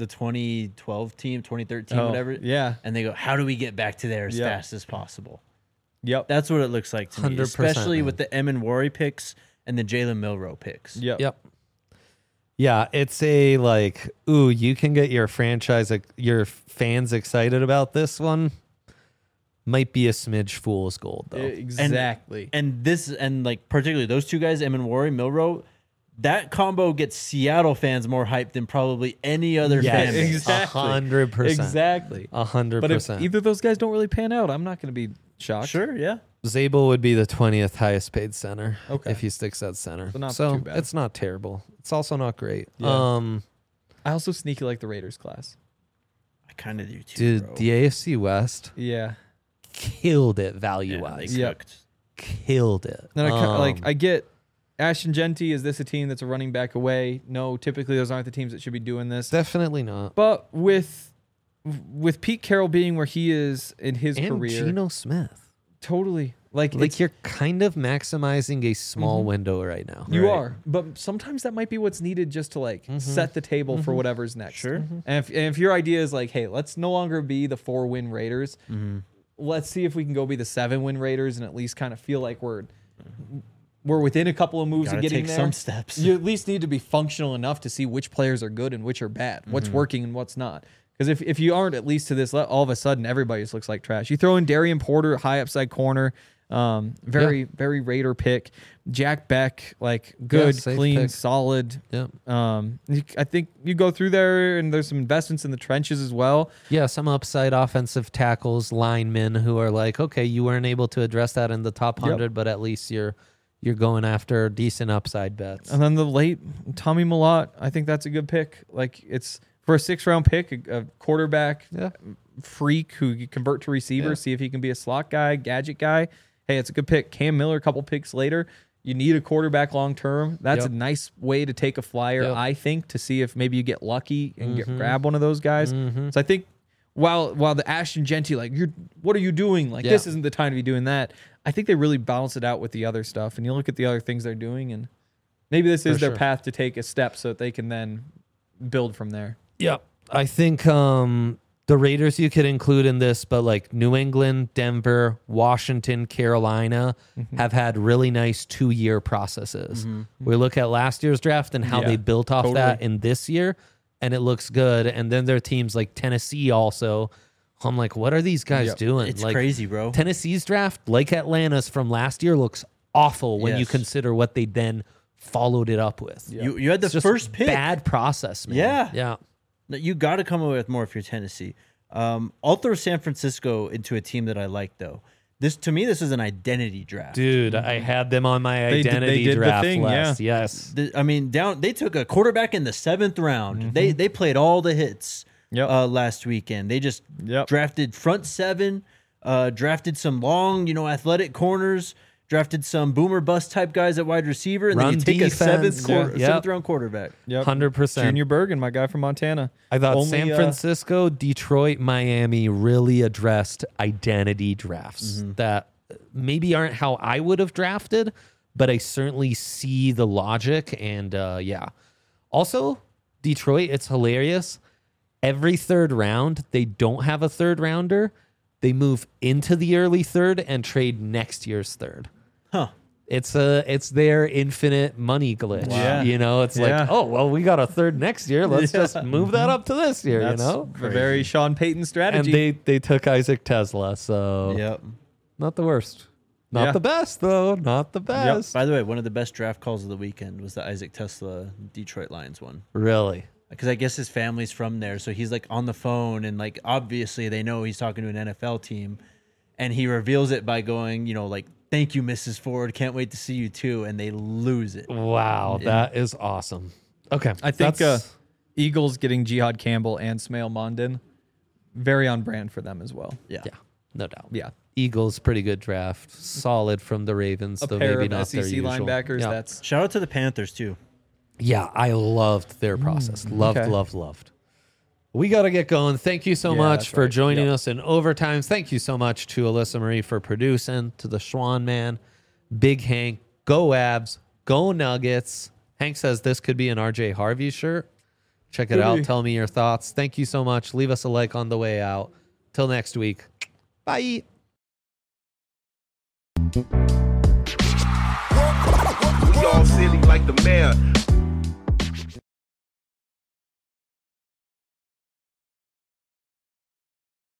Speaker 3: 2012 team, 2013, whatever.
Speaker 2: Yeah.
Speaker 3: And they go, how do we get back to there as
Speaker 2: Yeah.
Speaker 3: fast as possible?
Speaker 2: Yep.
Speaker 3: That's what it looks like to me,
Speaker 1: 100%,
Speaker 3: especially
Speaker 1: man.
Speaker 3: with the Emin Wari picks and the Jalen Milroe picks.
Speaker 2: Yep.
Speaker 1: Yep. Yeah, it's a like, ooh, you can get your franchise, your fans excited about this one. Might be a smidge fool's gold though.
Speaker 2: Exactly.
Speaker 3: And this, and like particularly those two guys, Emin Wari, Milroe, that combo gets Seattle fans more hyped than probably any other fan base.
Speaker 2: Exactly.
Speaker 1: 100%.
Speaker 2: Exactly.
Speaker 1: 100%.
Speaker 2: But if either of those guys don't really pan out, I'm not going to be shocked.
Speaker 3: Sure, yeah.
Speaker 1: Zabel would be the 20th highest paid center
Speaker 2: Okay.
Speaker 1: if he sticks at center.
Speaker 2: So not
Speaker 1: so
Speaker 2: too bad.
Speaker 1: it's not terrible. It's also not great.
Speaker 2: Yeah. I also sneaky like the Raiders class.
Speaker 3: I kind of do too,
Speaker 1: Dude,
Speaker 3: bro.
Speaker 1: the AFC West
Speaker 2: Yeah.
Speaker 1: killed it value
Speaker 3: Yeah,
Speaker 1: wise.
Speaker 3: they
Speaker 2: Yep.
Speaker 3: cooked.
Speaker 1: Killed it.
Speaker 2: Then I get Ashton Genty. Is this a team that's a running back away? No, typically those aren't the teams that should be doing this.
Speaker 1: Definitely not.
Speaker 2: But with Pete Carroll being where he is in his
Speaker 1: And
Speaker 2: career,
Speaker 1: Geno Smith.
Speaker 2: totally like
Speaker 1: You're kind of maximizing a small window right now.
Speaker 2: you
Speaker 3: Right.
Speaker 2: are. But sometimes that might be what's needed just to set the table for whatever's next.
Speaker 3: Sure.
Speaker 2: And if your idea is like, hey, let's no longer be the 4-win Raiders. Let's see if we can go be the 7-win Raiders and at least kind of feel like we're within a couple of moves
Speaker 3: Gotta
Speaker 2: of getting
Speaker 3: take
Speaker 2: there.
Speaker 3: some steps.
Speaker 2: You at least need to be functional enough to see which players are good and which are bad, what's working and what's not. Because if you aren't at least to this, all of a sudden everybody just looks like trash. You throw in Darian Porter, high upside corner, very Raider pick. Jack Beck, like good,
Speaker 1: safe
Speaker 2: clean,
Speaker 1: pick.
Speaker 2: solid.
Speaker 1: Yep.
Speaker 2: I think you go through there and there's some investments in the trenches as well.
Speaker 1: Yeah, some upside offensive tackles, linemen who are like, okay, you weren't able to address that in the top 100, but at least you're going after decent upside bets.
Speaker 2: And then the late Tommy Millott, I think that's a good pick. Like it's for a 6th-round pick, a quarterback freak who you convert to receiver, see if he can be a slot guy, gadget guy. Hey, it's a good pick. Cam Miller, a couple picks later. You need a quarterback long term. That's a nice way to take a flyer, I think, to see if maybe you get lucky and grab one of those guys. So I think while the Ashton Genty, like, what are you doing? Like, this isn't the time to be doing that. I think they really balance it out with the other stuff. And you look at the other things they're doing, and maybe this is their path to take a step so that they can then build from there.
Speaker 1: Yep. I think the Raiders you could include in this, but like New England, Denver, Washington, Carolina have had really nice 2-year processes. We look at last year's draft and how they built off that in this year, and it looks good. And then there are teams like Tennessee also. I'm like, what are these guys doing?
Speaker 3: It's
Speaker 1: like,
Speaker 3: crazy, bro.
Speaker 1: Tennessee's draft, like Atlanta's from last year, looks awful when you
Speaker 3: Yes.
Speaker 1: consider what they then followed it up with.
Speaker 3: You had the
Speaker 1: It's just
Speaker 3: first pick.
Speaker 1: bad process, man.
Speaker 3: Yeah.
Speaker 1: Yeah.
Speaker 3: No, you got to come away with more if you're Tennessee. I'll throw San Francisco into a team that I like, though. This is an identity draft.
Speaker 1: Dude, I had them on my
Speaker 2: They
Speaker 1: identity
Speaker 2: did the
Speaker 1: draft
Speaker 2: thing,
Speaker 1: list. Yes.
Speaker 3: I mean, they took a quarterback in the 7th round. They played all the hits last weekend. They just drafted front 7, drafted some long, athletic corners, drafted some boomer bust type guys at wide receiver, and
Speaker 1: Run
Speaker 3: then you take
Speaker 1: defense.
Speaker 3: a 7th
Speaker 1: Yep.
Speaker 3: round quarterback.
Speaker 1: 100%.
Speaker 2: Junior Bergen, my guy from Montana.
Speaker 1: I thought
Speaker 2: Only,
Speaker 1: San Francisco, Detroit, Miami really addressed identity drafts that maybe aren't how I would have drafted, but I certainly see the logic. And also, Detroit, it's hilarious. Every 3rd round, they don't have a 3rd rounder. They move into the early 3rd and trade next year's 3rd.
Speaker 3: Huh.
Speaker 1: It's their infinite money glitch.
Speaker 2: Wow.
Speaker 1: It's like, oh, well, we got a 3rd next year. Let's just move that up to this year,
Speaker 2: That's
Speaker 1: you know?
Speaker 2: a very Sean Payton
Speaker 1: And
Speaker 2: strategy.
Speaker 1: they took Isaac Tesla, so
Speaker 3: Yep.
Speaker 1: not the worst. Not
Speaker 2: Yeah.
Speaker 1: the best, though. Not the best.
Speaker 3: By the way, one of the best draft calls of the weekend was the Isaac Tesla Detroit Lions one.
Speaker 1: Really?
Speaker 3: Because I guess his family's from there, so he's like on the phone, and like obviously they know he's talking to an NFL team, and he reveals it by going, like, "Thank you, Mrs. Ford. Can't wait to see you too," and they lose it.
Speaker 1: Wow, that is awesome. Okay.
Speaker 2: I think
Speaker 1: that's-
Speaker 2: Eagles getting Jihad Campbell and Smail Mondin, very on brand for them as well.
Speaker 3: Yeah.
Speaker 1: yeah, no doubt.
Speaker 2: Yeah.
Speaker 1: Eagles, pretty good draft. Solid from the Ravens,
Speaker 2: A
Speaker 1: though
Speaker 2: pair
Speaker 1: maybe
Speaker 2: of
Speaker 1: not
Speaker 2: SEC
Speaker 1: their usual.
Speaker 2: linebackers.
Speaker 1: Yeah.
Speaker 2: That's
Speaker 3: Shout out to the Panthers too.
Speaker 1: Yeah, I loved their process. Loved,
Speaker 2: okay.
Speaker 1: loved. We got to get going. Thank you so
Speaker 2: Yeah,
Speaker 1: much
Speaker 2: that's
Speaker 1: for
Speaker 2: right.
Speaker 1: joining
Speaker 2: Yep.
Speaker 1: us in overtimes. Thank you so much to Alyssa Marie for producing, to the Schwan Man, Big Hank, go Abs, go Nuggets. Hank says this could be an RJ Harvey shirt. Check it
Speaker 2: Could
Speaker 1: out.
Speaker 2: be.
Speaker 1: Tell me your thoughts. Thank you so much. Leave us a like on the way out. Till next week. Bye.
Speaker 4: We all silly like the mayor.